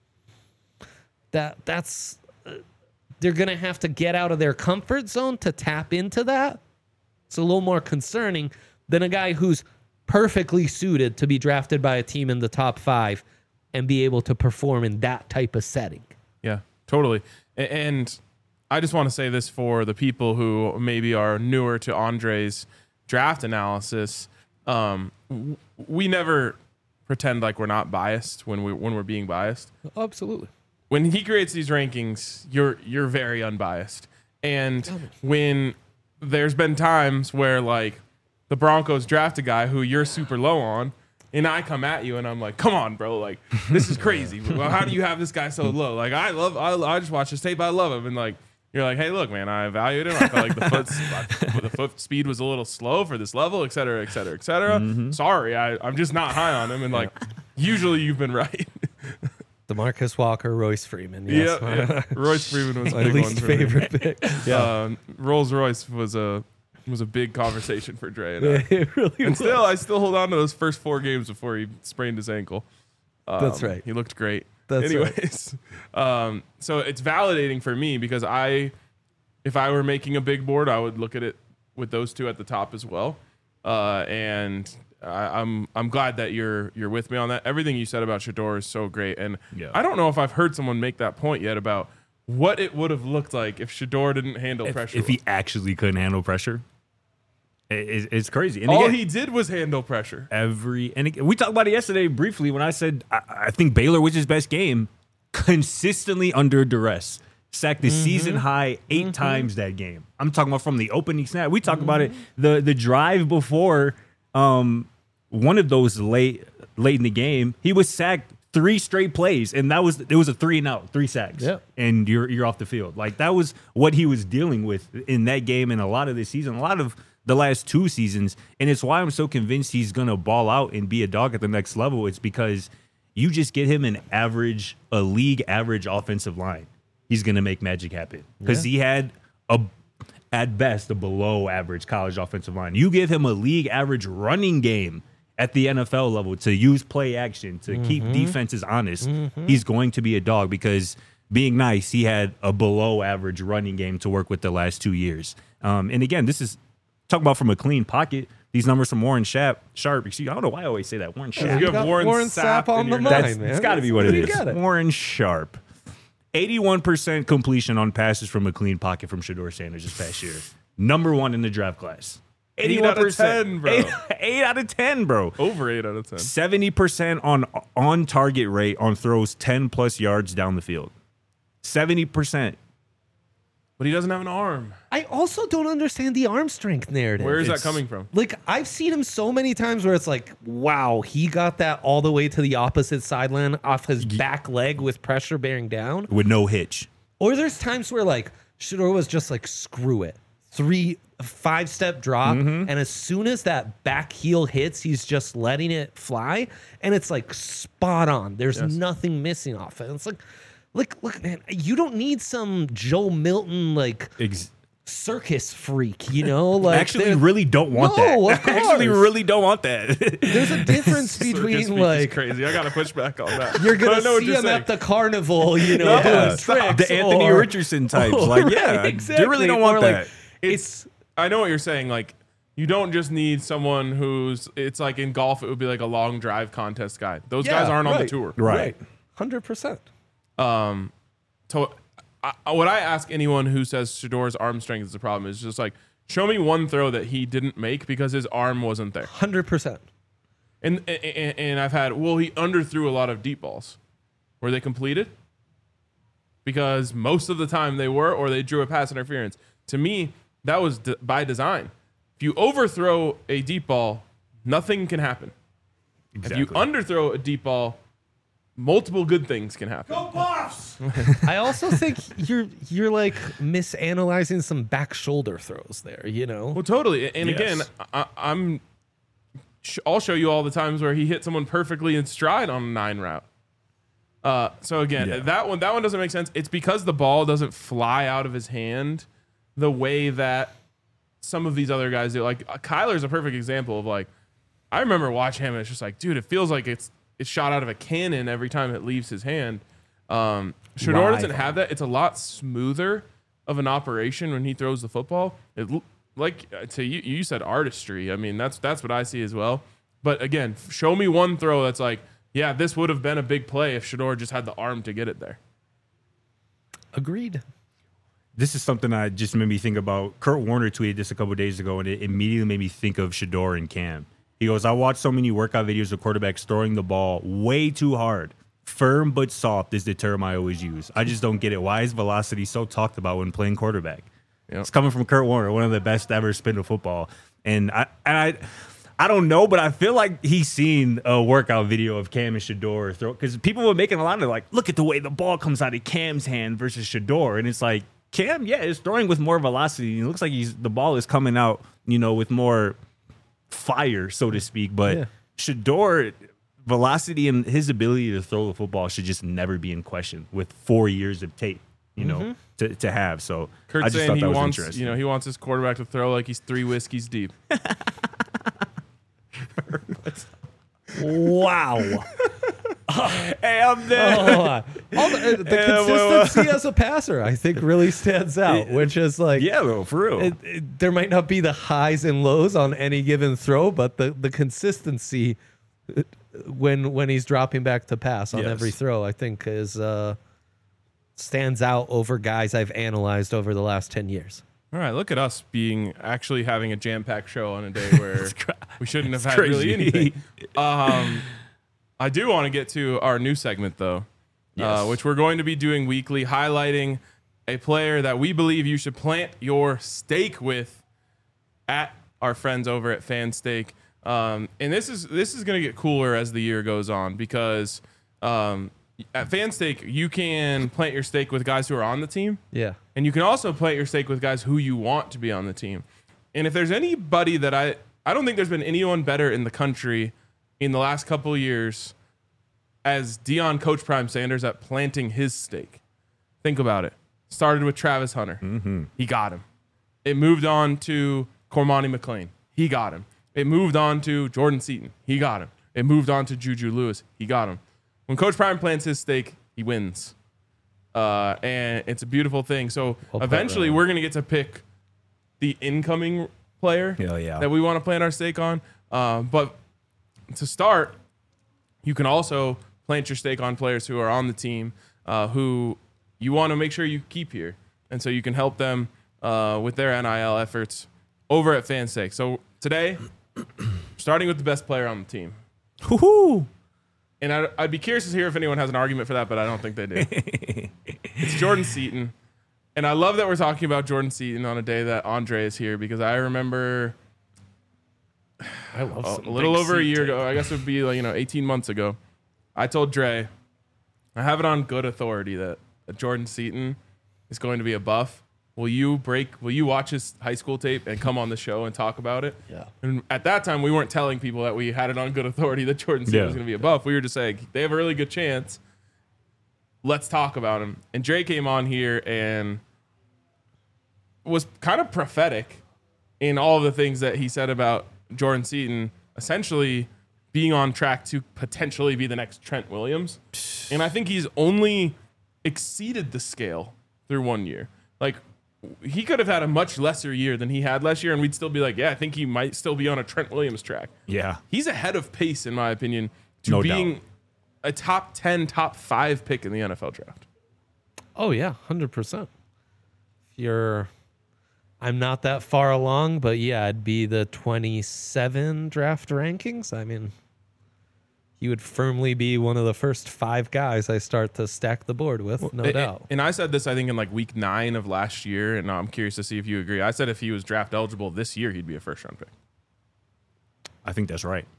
that that's uh, they're gonna have to get out of their comfort zone to tap into that. It's a little more concerning than a guy who's perfectly suited to be drafted by a team in the top five and be able to perform in that type of setting. Yeah, totally. A- And I just want to say this for the people who maybe are newer to Andre's draft analysis. Um, w- we never pretend like we're not biased when we when we're being biased. Absolutely. When he creates these rankings, you're you're very unbiased. And when there's been times where like the Broncos draft a guy who you're super low on, and I come at you and I'm like, come on, bro, like this is crazy. Well, how do you have this guy so low? Like I love, I, I just watched his tape, I love him, and like you're like, hey, look, man, I evaluated him. I felt like the foot, the foot speed was a little slow for this level, et cetera, et cetera, et cetera. Sorry, I, I'm just not high on him, and like usually you've been right. DeMarcus Walker, Royce Freeman. Yes. Yeah, yeah. Royce Freeman was a My big least one for me. favorite pick. Yeah. Um, Rolls Royce was a was a big conversation for Dre and I. It really And was. still, I still hold on to those first four games before he sprained his ankle. Um, That's right. He looked great. That's right. Anyways, um, so it's validating for me because I, if I were making a big board, I would look at it with those two at the top as well. Uh, and I, I'm I'm glad that you're you're with me on that. Everything you said about Shedeur is so great, and Yeah. I don't know if I've heard someone make that point yet about what it would have looked like if Shedeur didn't handle If, pressure. if he actually couldn't handle pressure, it, it- it's crazy. And all again, he did was handle pressure. every and again, we talked about it yesterday briefly when I said I, I think Baylor was his best game, consistently under duress. Sacked the season high eight times that game. I'm talking about from the opening snap. We talked about it the the drive before um one of those late late in the game. He was sacked three straight plays, and that was it was a three and out, three sacks, Yep. and you're you're off the field. Like that was what he was dealing with in that game and a lot of this season, a lot of the last two seasons, and it's why I'm so convinced he's gonna ball out and be a dog at the next level. It's because you just get him an average, a league average offensive line. He's going to make magic happen because Yeah. he had a, at best, a below average college offensive line. You give him a league average running game at the N F L level to use play action, to keep defenses honest. He's going to be a dog because being nice, he had a below average running game to work with the last two years. Um, and again, this is talking about from a clean pocket. These numbers from Warren Sharp. Sharp. Excuse, I don't know why I always say that. Warren Sharp. You got have Warren, Warren Sapp Sapp on in the your mind. notes. That's, man. it's got to be what it You is. got it. Warren Sharp. eighty-one percent completion on passes from a clean pocket from Shedeur Sanders this past year. Number one in the draft class. Eight out of ten, bro. Eight, eight out of ten, bro. Over eight out of ten. seventy percent on on target rate on throws ten plus yards down the field. seventy percent. But he doesn't have an arm. I also don't understand the arm strength narrative. Where is that It's- coming from? Like, I've seen him so many times where it's like, wow, he got that all the way to the opposite sideline off his back leg with pressure bearing down. With no hitch. Or there's times where like Shedeur was just like, screw it. Three, five step drop. Mm-hmm. And as soon as that back heel hits, he's just letting it fly. And it's like spot on. There's Yes. nothing missing off it. It's like, look, look, man, you don't need some Joe Milton like Ex- circus freak, you know? Like Actually, there- really don't want No, that. of Actually, course. really don't want that. there's a difference Circus between speak is like crazy. I gotta push back on that. you're But I gonna know what see you're him saying. at the carnival, you know, Yeah. doing tricks. The Anthony or- Richardson types. Like, yeah, Right, I exactly. really don't Or, want like, that. It's. I know what you're saying. Like, you don't just need someone who's. It's like in golf, it would be like a long drive contest guy. Those Yeah, guys aren't on the right. tour. Right. Hundred percent. Um, so I, I- what I ask anyone who says Shedeur's arm strength is the problem is just like, show me one throw that he didn't make because his arm wasn't there. Hundred percent. And, and and I've had, well, he underthrew a lot of deep balls. Were they completed? Because most of the time they were, or they drew a pass interference. To me, that was d- by design. If you overthrow a deep ball, nothing can happen. Exactly. If you underthrow a deep ball, multiple good things can happen. Go Buffs! I also think you're you're like misanalyzing some back shoulder throws there. You know, Well, totally. And Yes. again, I, I'm. sh- I'll show you all the times where he hit someone perfectly in stride on a nine route. Uh, so again, Yeah. that one that one doesn't make sense. It's because the ball doesn't fly out of his hand the way that some of these other guys do. Like uh, Kyler's a perfect example of like, I remember watching him and it's just like, dude, it feels like it's it's shot out of a cannon every time it leaves his hand. Um, Shador Live. doesn't have that. It's a lot smoother of an operation when he throws the football. It l- like uh, to you, you said artistry. I mean, that's that's what I see as well. But again, f- show me one throw that's like, yeah, this would have been a big play if Shador just had the arm to get it there. agreed. This is something I just made me think about. Kurt Warner tweeted this a couple days ago, and it immediately made me think of Shador and Cam. He goes, I watched so many workout videos of quarterbacks throwing the ball way too hard. Firm but soft is the term I always use. I just don't get it. Why is velocity so talked about when playing quarterback? Yep. It's coming from Kurt Warner, one of the best to ever spin a football. And I and I I don't know, but I feel like he's seen a workout video of Cam and Shador throw, because people were making a lot of like, look at the way the ball comes out of Cam's hand versus Shador. And it's like, Cam, yeah, is throwing with more velocity. It looks like he's the ball is coming out, you know, with more fire, so to speak. But Yeah. Shador, velocity and his ability to throw the football should just never be in question with four years of tape, you know, to, to have. So Kurt's I just saying thought he that was wants, interesting. you know, he wants his quarterback to throw like he's three whiskeys deep. Wow. hey, I'm there. Oh, all the, uh, the Yeah, well, consistency as a passer, I think, really stands out. Which is like, Yeah, though, for real. it, it, there might not be the highs and lows on any given throw, but the the consistency uh, when when he's dropping back to pass on Yes. every throw, I think, is uh, stands out over guys I've analyzed over the last ten years. All right, look at us being actually having a jam-packed show on a day where we shouldn't have It's had really crazy. anything. Um, I do want to get to our new segment though, uh, Yes. which we're going to be doing weekly, highlighting a player that we believe you should plant your stake with at our friends over at Fan Stake. Um, and this is this is going to get cooler as the year goes on because um, at Fan Stake you can plant your stake with guys who are on the team. Yeah. And you can also plant your stake with guys who you want to be on the team. And if there's anybody that I, I don't think there's been anyone better in the country in the last couple of years as Dion Coach Prime Sanders at planting his stake. Think about it. Started with Travis Hunter. Mm-hmm. He got him. It moved on to Cormani McLean. He got him. It moved on to Jordan Seaton. He got him. It moved on to Juju Lewis. He got him. When Coach Prime plants his stake, he wins. Uh, and it's a beautiful thing. So Well put, eventually Ryan. we're going to get to pick the incoming player Hell yeah. that we want to plant our stake on. Uh, but to start, you can also plant your stake on players who are on the team uh, who you want to make sure you keep here. And so you can help them uh, with their N I L efforts over at FanStake. So today, starting with the best player on the team. Woohoo! And I'd, I'd be curious to hear if anyone has an argument for that, but I don't think they do. It's Jordan Seaton. And I love that we're talking about Jordan Seaton on a day that Andre is here because I remember I love a, some a little big over a seat year tape. ago, I guess it would be like, you know, eighteen months ago, I told Dre, I have it on good authority that, that Jordan Seaton is going to be a buff. Will you break, will you watch his high school tape and come on the show and talk about it? Yeah. And at that time, we weren't telling people that we had it on good authority that Jordan Seaton Yeah. was going to be a buff. We were just saying, they have a really good chance. Let's talk about him. And Dre came on here and was kind of prophetic in all of the things that he said about Jordan Seaton, essentially being on track to potentially be the next Trent Williams. And I think he's only exceeded the scale through one year. Like, he could have had a much lesser year than he had last year, and we'd still be like, yeah, I think he might still be on a Trent Williams track. Yeah. He's ahead of pace, in my opinion, to No being doubt. a top ten, top five pick in the N F L draft. Oh yeah, hundred percent. If you're, I'm not that far along, but yeah, it'd be the twenty-seven draft rankings. I mean, he would firmly be one of the first five guys I start to stack the board with, no And- doubt. And I said this, I think, in like week nine of last year, and I'm curious to see if you agree. I said if he was draft eligible this year, he'd be a first round pick. I think that's right.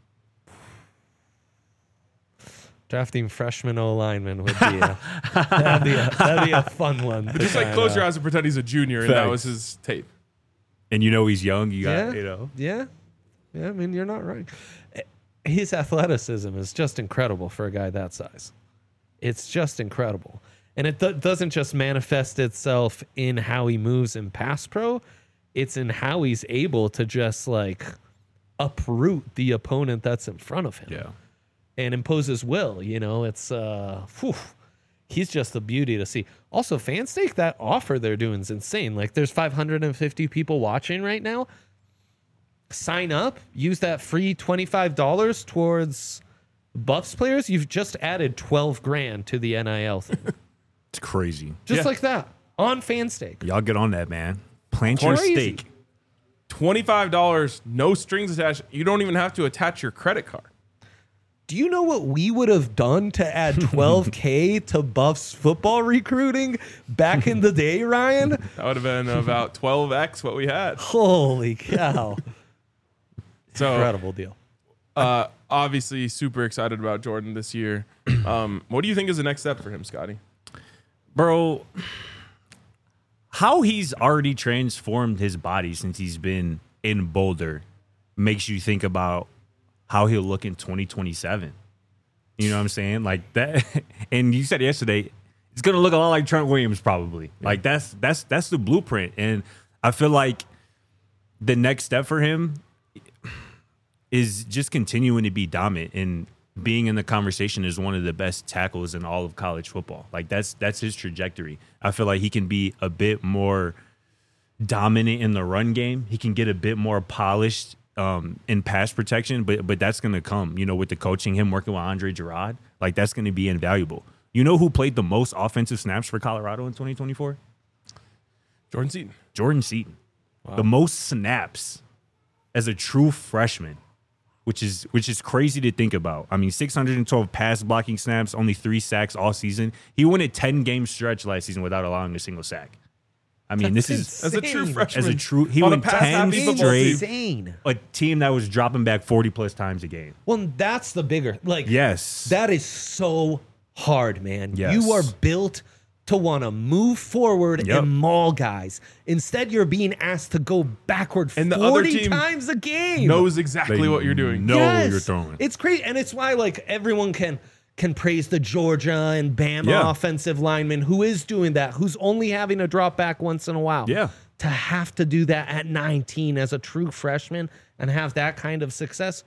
Drafting freshman O lineman would be a, that'd be a that'd be a fun one. to Just like kinda- close your eyes and pretend he's a junior, and that Facts. was his tape. And you know he's young. You got, Yeah, you know. yeah, yeah. I mean, you're not right. His athleticism is just incredible for a guy that size. It's just incredible, and it do- doesn't just manifest itself in how he moves in pass pro. It's in how he's able to just like uproot the opponent that's in front of him. Yeah. And impose his will. You know, it's uh, whew, he's just a beauty to see. Also, Fanstake, that offer they're doing is insane. Like, there's five hundred fifty people watching right now. Sign up, use that free twenty-five dollars towards Buffs players. You've just added twelve grand to the N I L thing, It's crazy. just Yeah. like that on Fanstake. Y'all get on that, man. Plant your Crazy. stake. twenty-five dollars, no strings attached. You don't even have to attach your credit card. Do you know what we would have done to add twelve K to Buffs football recruiting back in the day, Ryan? That would have been about twelve x what we had. Holy cow. So, Incredible deal. uh, obviously, super excited about Jordan this year. Um, what do you think is the next step for him, Scotty? Bro, how he's already transformed his body since he's been in Boulder makes you think about how he'll look in twenty twenty-seven. You know what I'm saying? Like that. And you said yesterday, it's going to look a lot like Trent Williams probably. Like that's that's that's the blueprint. And I feel like the next step for him is just continuing to be dominant and being in the conversation as one of the best tackles in all of college football. Like that's that's his trajectory. I feel like he can be a bit more dominant in the run game. He can get a bit more polished um, in pass protection, but but that's going to come, you know, with the coaching, him working with Andre Gerard. Like that's going to be invaluable. You know who played the most offensive snaps for Colorado in twenty twenty-four? Jordan Seaton. Jordan Seaton. The most snaps as a true freshman, which is which is crazy to think about. I mean, six hundred twelve pass blocking snaps, only three sacks all season. He went a ten game stretch last season without allowing a single sack. I mean, That's this is As a true Insane. freshman. as a true. He On a went pass ten happy football straight. team. Insane. A team that was dropping back forty plus times a game. Well, that's the bigger, like, Yes, that is so hard, man. Yes. You are built to want to move forward Yep. and maul guys. Instead, you're being asked to go backward And the other forty team times a game. Knows exactly They what you're doing. know Yes. you're throwing. It's crazy, and it's why like everyone can can praise the Georgia and Bama Yeah. offensive lineman who is doing that, who's only having to drop back once in a while. Yeah. To have to do that at nineteen as a true freshman and have that kind of success,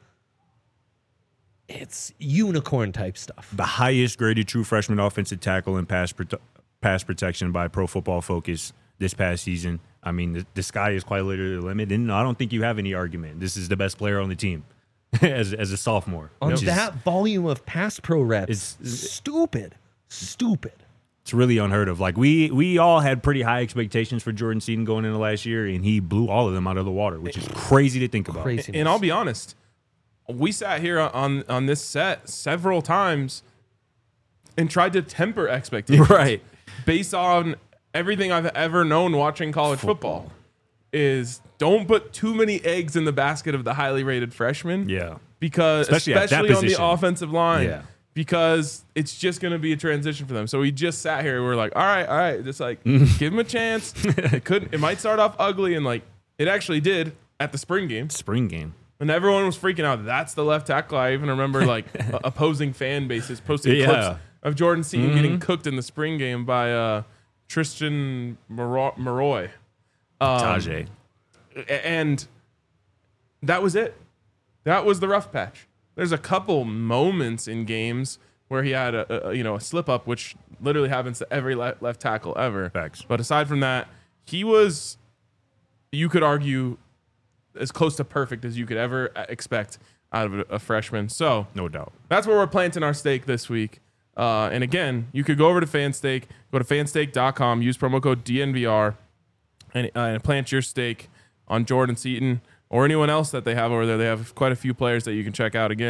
it's unicorn type stuff. the highest graded true freshman offensive tackle in pass prote- pass protection by Pro Football Focus this past season. I mean, the, the sky is quite literally the limit, and I don't think you have any argument. This is the best player on the team as as a sophomore. On which is- that volume of pass pro reps, It's- stupid, stupid. it's really unheard of. Like we we all had pretty high expectations for Jordan Seaton going into last year, and he blew all of them out of the water, which is crazy to think about. Craziness. And I'll be honest, we sat here on on this set several times and tried to temper expectations. Right. Based on everything I've ever known watching college football, is don't put too many eggs in the basket of the highly rated freshman. Yeah. Because Especially especially, at that on the position. offensive line. Yeah. Because it's just going to be a transition for them. So we just sat here and we we're like, all right, all right, just like give them a chance. It couldn't. It might start off ugly, and like it actually did at the spring game. Spring game. And everyone was freaking out. That's the left tackle. I even remember like uh, opposing fan bases posting Yeah. clips of Jordan Seaton getting cooked in the spring game by uh, Tristan Maro- Maroy. Um, Tajay. A- And that was it. That was the rough patch. There's a couple moments in games where he had a, a you know a slip up, which literally happens to every le- left tackle ever. Facts. But aside from that, he was, you could argue, as close to perfect as you could ever expect out of a, a freshman. So No doubt. that's where we're planting our stake this week. Uh, and again, you could go over to Fanstake, go to fanstake dot com, use promo code D N V R, and, uh, and plant your stake on Jordan Seaton or anyone else that they have over there. They have quite a few players that you can check out. Again,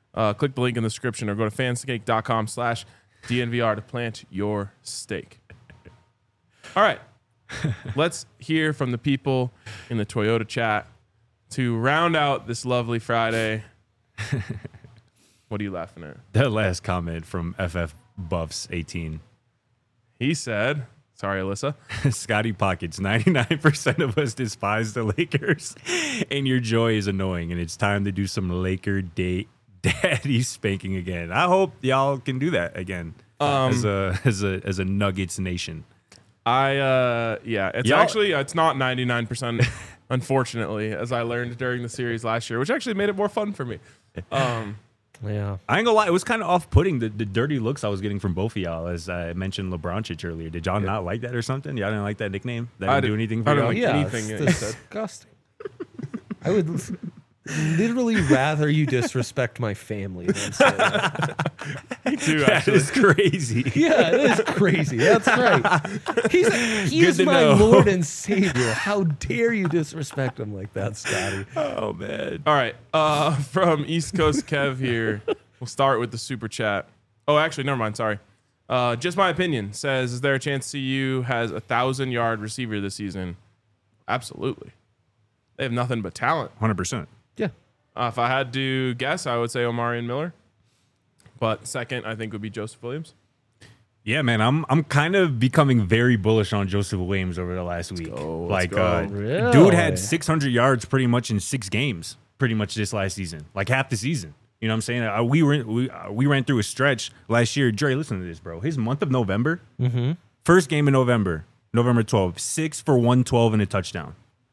Uh, click the link in the description or go to fanscake.com slash DNVR to plant your stake. All right. Let's hear from the people in the Toyota chat to round out this lovely Friday. What are you laughing at? That last comment from F F Buffs eighteen. He said, sorry, Alyssa. Scotty Pockets, ninety-nine percent of us despise the Lakers, and your joy is annoying, and it's time to do some Laker day daddy spanking again. I hope y'all can do that again Um, as a as a as a Nuggets nation. I, uh, yeah, it's Y'all- actually, it's not ninety-nine percent, unfortunately, as I learned during the series last year, which actually made it more fun for me. Um, Yeah. I ain't gonna lie, it was kind of off-putting the, the dirty looks I was getting from both of y'all. As I mentioned LeBronchich earlier, did y'all not like that or something? Y'all didn't like that nickname? That I didn't do did- anything for I don't y'all? like Yeah, anything it's that you said. disgusting. I would literally rather you disrespect my family than say that. too, That actually. is crazy. Yeah, it is crazy. That's right. He's he Good is to my know. Lord and Savior. How dare you disrespect him like that, Scotty? Oh man. All right. Uh, from East Coast Kev here, we'll start with the super chat. Oh, actually, never mind. Sorry. Uh, just my opinion says, is there a chance C U has a thousand yard receiver this season? Absolutely. They have nothing but talent. one hundred percent. Yeah. Uh, if I had to guess, I would say Omarion Miller. But second, I think would be Joseph Williams. Yeah, man, I'm I'm kind of becoming very bullish on Joseph Williams over the last week. go, let's like, go. uh, Really? dude had six hundred yards pretty much in six games, pretty much this last season, like half the season. You know what I'm saying? Uh, we were we uh, we ran through a stretch last year. Dre, listen to this, bro. His month of November, Mm-hmm. first game in November, November twelfth, six for one twelve and a touchdown.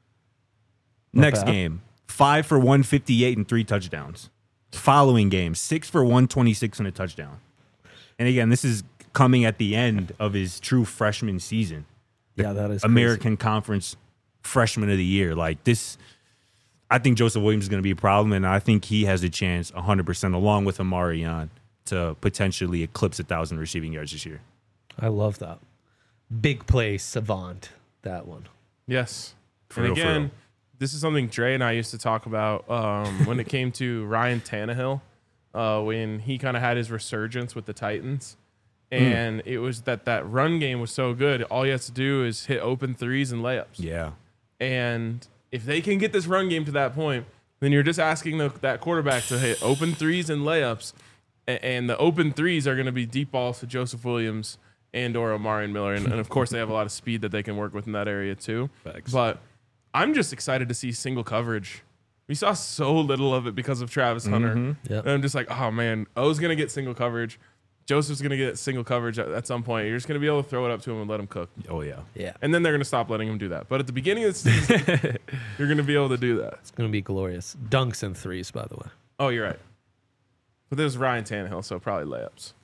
Next bad. game, five for one fifty-eight and three touchdowns. Following game, six for one twenty-six and a touchdown. And again, this is coming at the end of his true freshman season. Yeah, that is American Conference Freshman of the Year. Like this, I think Joseph Williams is going to be a problem, and I think he has a chance one hundred percent along with Omarion to potentially eclipse one thousand receiving yards this year. crazy. I love that. Big play savant, that one. Yes. For and real, for again, real. this is something Dre and I used to talk about um, when it came to Ryan Tannehill, uh, when he kind of had his resurgence with the Titans. And it was that that run game was so good. All he has to do is hit open threes and layups. Yeah. And if they can get this run game to that point, then you're just asking the, that quarterback to hit open threes and layups. And, and the open threes are going to be deep balls to Joseph Williams and or Omarion Miller. And, and of course, they have a lot of speed that they can work with in that area too. Facts. But I'm just excited to see single coverage. We saw so little of it because of Travis Hunter. Yep. And I'm just like, oh, man, O's going to get single coverage. Joseph's going to get single coverage at, at some point. You're just going to be able to throw it up to him and let him cook. Oh, yeah. Yeah. And then they're going to stop letting him do that. But at the beginning of the season, you're going to be able to do that. It's going to be glorious. Dunks and threes, by the way. Oh, you're right. But there's Ryan Tannehill, so probably layups.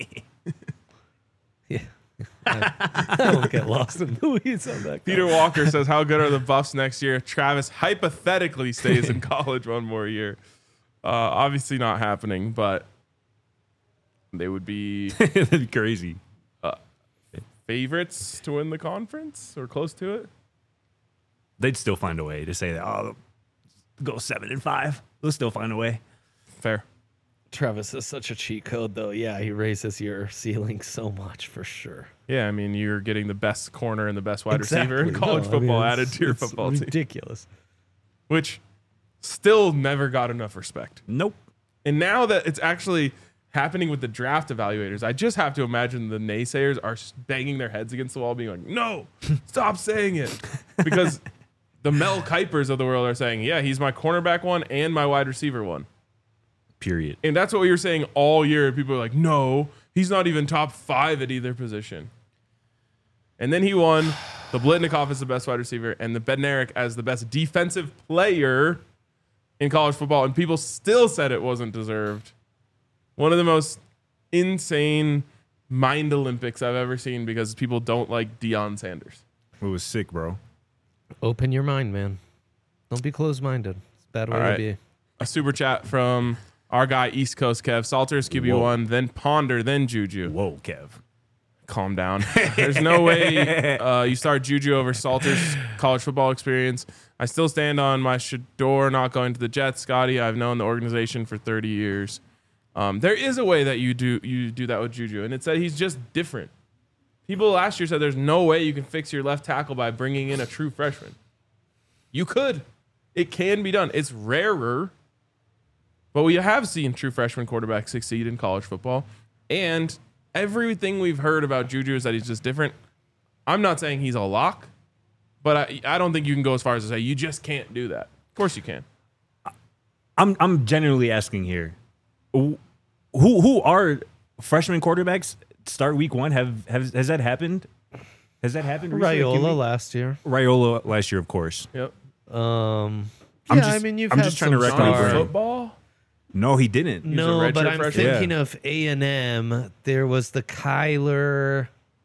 Yeah. I, I won't get lost in the weeds on that. Peter Walker says, how good are the Buffs next year? Travis hypothetically stays in college one more year. Uh, obviously not happening, but they would be That'd be crazy. favorites to win the conference or close to it. They'd still find a way to say that, oh, go seven and five. They'll still find a way. Fair. Travis is such a cheat code, though. Yeah, he raises your ceiling so much for sure. Yeah, I mean, you're getting the best corner and the best wide receiver in Exactly. college No, I mean, football it's- added to your it's football team, ridiculous. which still never got enough respect. Nope. And now that it's actually happening with the draft evaluators, I just have to imagine the naysayers are banging their heads against the wall, being like, no, stop saying it. Because the Mel Kipers of the world are saying, yeah, he's my cornerback one and my wide receiver one. Period. And that's what we were saying all year. People are like, no, he's not even top five at either position. And then he won the Blitnikoff as the best wide receiver and the Bednarik as the best defensive player in college football. And people still said it wasn't deserved. One of the most insane mind Olympics I've ever seen because people don't like Deion Sanders. It was sick, bro. Open your mind, man. Don't be closed-minded. It's a bad way All right. to be. A super chat from our guy, East Coast Kev. Salters Q B one, then Ponder, then Juju. Whoa, Kev. Calm down. There's no way uh, you start Juju over Salter's college football experience. I still stand on my Shador not going to the Jets. Scotty, I've known the organization for thirty years. Um, there is a way that you do you do that with Juju, and it's that he's just different. People last year said there's no way you can fix your left tackle by bringing in a true freshman. You could. It can be done. It's rarer, but we have seen true freshman quarterbacks succeed in college football. And everything we've heard about Juju is that he's just different. I'm not saying he's a lock, but I, I don't think you can go as far as to say you just can't do that. Of course you can. I'm I'm genuinely asking here, who who are freshman quarterbacks start week one? Have, have has that happened? Has that happened? recently? Raiola last year. Raiola last year, of course. Yep. Um, I'm yeah, just- I mean, you've I'm had just trying to some rack my stars. brain. Football? No, he didn't. a No, redshirt but I'm freshman? thinking Yeah. of A and M. There was the Kyler,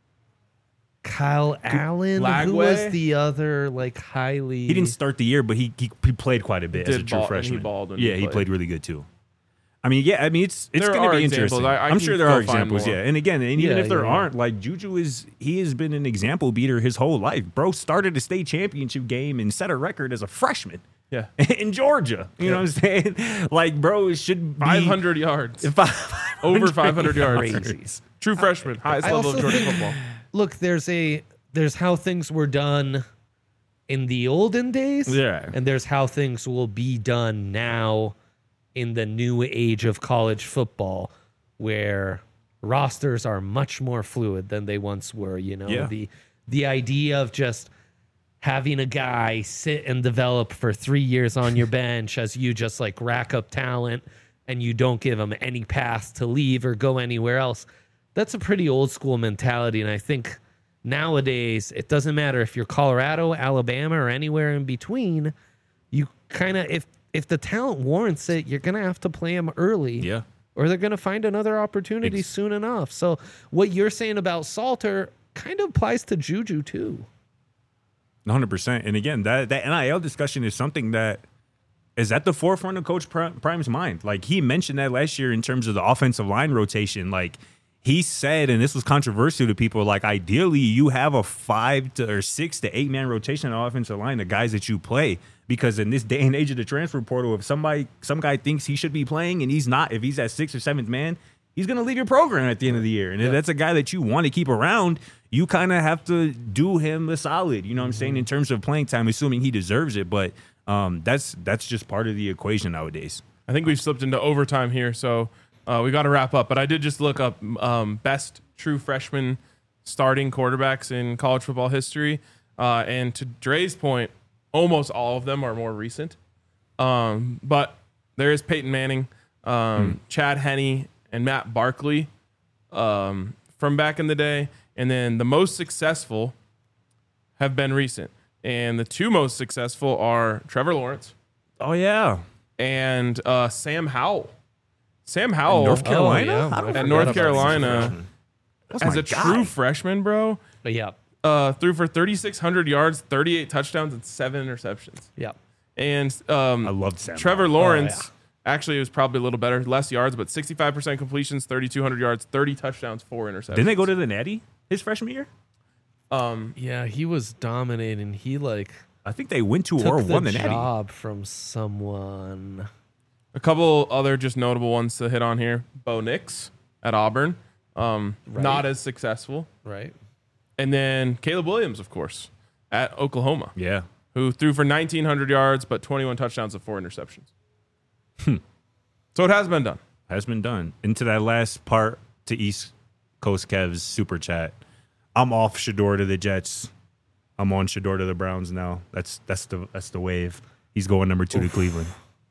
Kyle Allen. Who Lagway? was the other like highly? He didn't start the year, but he he, he played quite a bit as a Did true ball- and he freshman. balled when he yeah, he played. played really good too. I mean, yeah, I mean it's it's There going to are be examples. interesting. I- I I'm can sure there go are find examples, more. yeah. And again, and even Yeah, if there yeah. aren't, like Juju is he has been an example beater his whole life. Bro started a state championship game and set a record as a freshman Yeah. in Georgia. You know what I'm saying? Like, bro, it should be five hundred yards. five- Over five hundred yards. Crazy. True freshman. Highest I level of also Georgia think- football. Look, there's a there's how things were done in the olden days, Yeah. and there's how things will be done now in the new age of college football, where rosters are much more fluid than they once were. You know, Yeah. the the idea of just having a guy sit and develop for three years on your bench as you just like rack up talent and you don't give him any path to leave or go anywhere else. That's a pretty old school mentality. And I think nowadays it doesn't matter if you're Colorado, Alabama, or anywhere in between. You kind of, if, if the talent warrants it, you're going to have to play him early. Yeah. Or they're going to find another opportunity Ex- soon enough. So what you're saying about Salter kind of applies to Juju too. one hundred percent. And again, that, that N I L discussion is something that is at the forefront of Coach Prime's mind. Like, he mentioned that last year in terms of the offensive line rotation. Like, he said, and this was controversial to people, like, ideally you have a five to or six to eight man rotation on the offensive line, the guys that you play. Because in this day and age of the transfer portal, if somebody some guy thinks he should be playing and he's not, if he's at sixth or seventh man, he's going to leave your program at the end of the year. And if that's a guy that you want to keep around, you kind of have to do him the solid, you know what I'm saying, in terms of playing time, assuming he deserves it. But um, that's that's just part of the equation nowadays. I think we've slipped into overtime here, so uh, we got to wrap up. But I did just look up um, best true freshman starting quarterbacks in college football history. Uh, and to Dre's point, almost all of them are more recent. Um, but there is Peyton Manning, um, Chad Henne, and Matt Barkley um, from back in the day. And then the most successful have been recent. And the two most successful are Trevor Lawrence Oh, yeah. and uh, Sam Howell. Sam Howell North Carolina? Oh, yeah. I don't At forget North about this Carolina, freshman. That's as my a guy. true freshman, bro, But yeah, uh, threw for thirty-six hundred yards, thirty-eight touchdowns, and seven interceptions. yeah. And um, I loved Sam Trevor Howell. Lawrence, yeah. actually, it was probably a little better, less yards, but sixty-five percent completions, thirty-two hundred yards, thirty touchdowns, four interceptions. Didn't they go to the Natty his freshman year? Um, Yeah, he was dominating. He like I think they went to took or the won the Natty. job from someone. a couple other just notable ones to hit on here. Bo Nix at Auburn, um, Right. not as successful. Right. And then Caleb Williams, of course, at Oklahoma, Yeah. who threw for nineteen hundred yards, but twenty-one touchdowns and four interceptions. So it has been done. Has been done. Into that last part to East Coast Kev's super chat. I'm off Shador to the Jets. I'm on Shador to the Browns now. That's that's the that's the wave. He's going number two to Cleveland.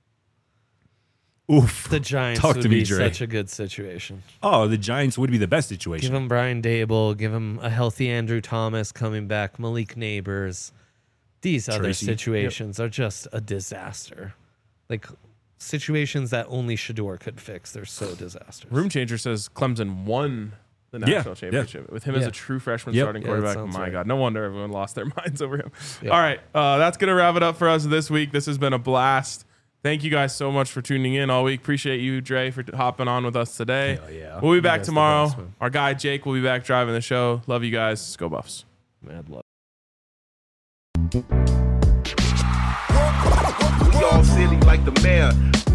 Oof. The Giants Talk would to me, be Dre. such a good situation. Oh, the Giants would be the best Give situation. him Brian Dable. Give him a healthy Andrew Thomas coming back. Malik Neighbors. These other Tracy. situations are just a disaster. Like situations that only Shador could fix. They're so disastrous. Room Changer says Clemson won the Yeah, national yeah. championship with him as Yeah. a true freshman Yep. starting Yeah, that quarterback. sounds My right. God, no wonder everyone lost their minds over him. Yeah. All right, uh, that's going to wrap it up for us this week. This has been a blast. Thank you guys so much for tuning in all week. Appreciate you, Dre, for t- hopping on with us today. Hell yeah. We'll be You back guys the tomorrow. best, man. Our guy Jake will be back driving the show. Love you guys. Go Buffs. Mad love. We all silly like the mayor.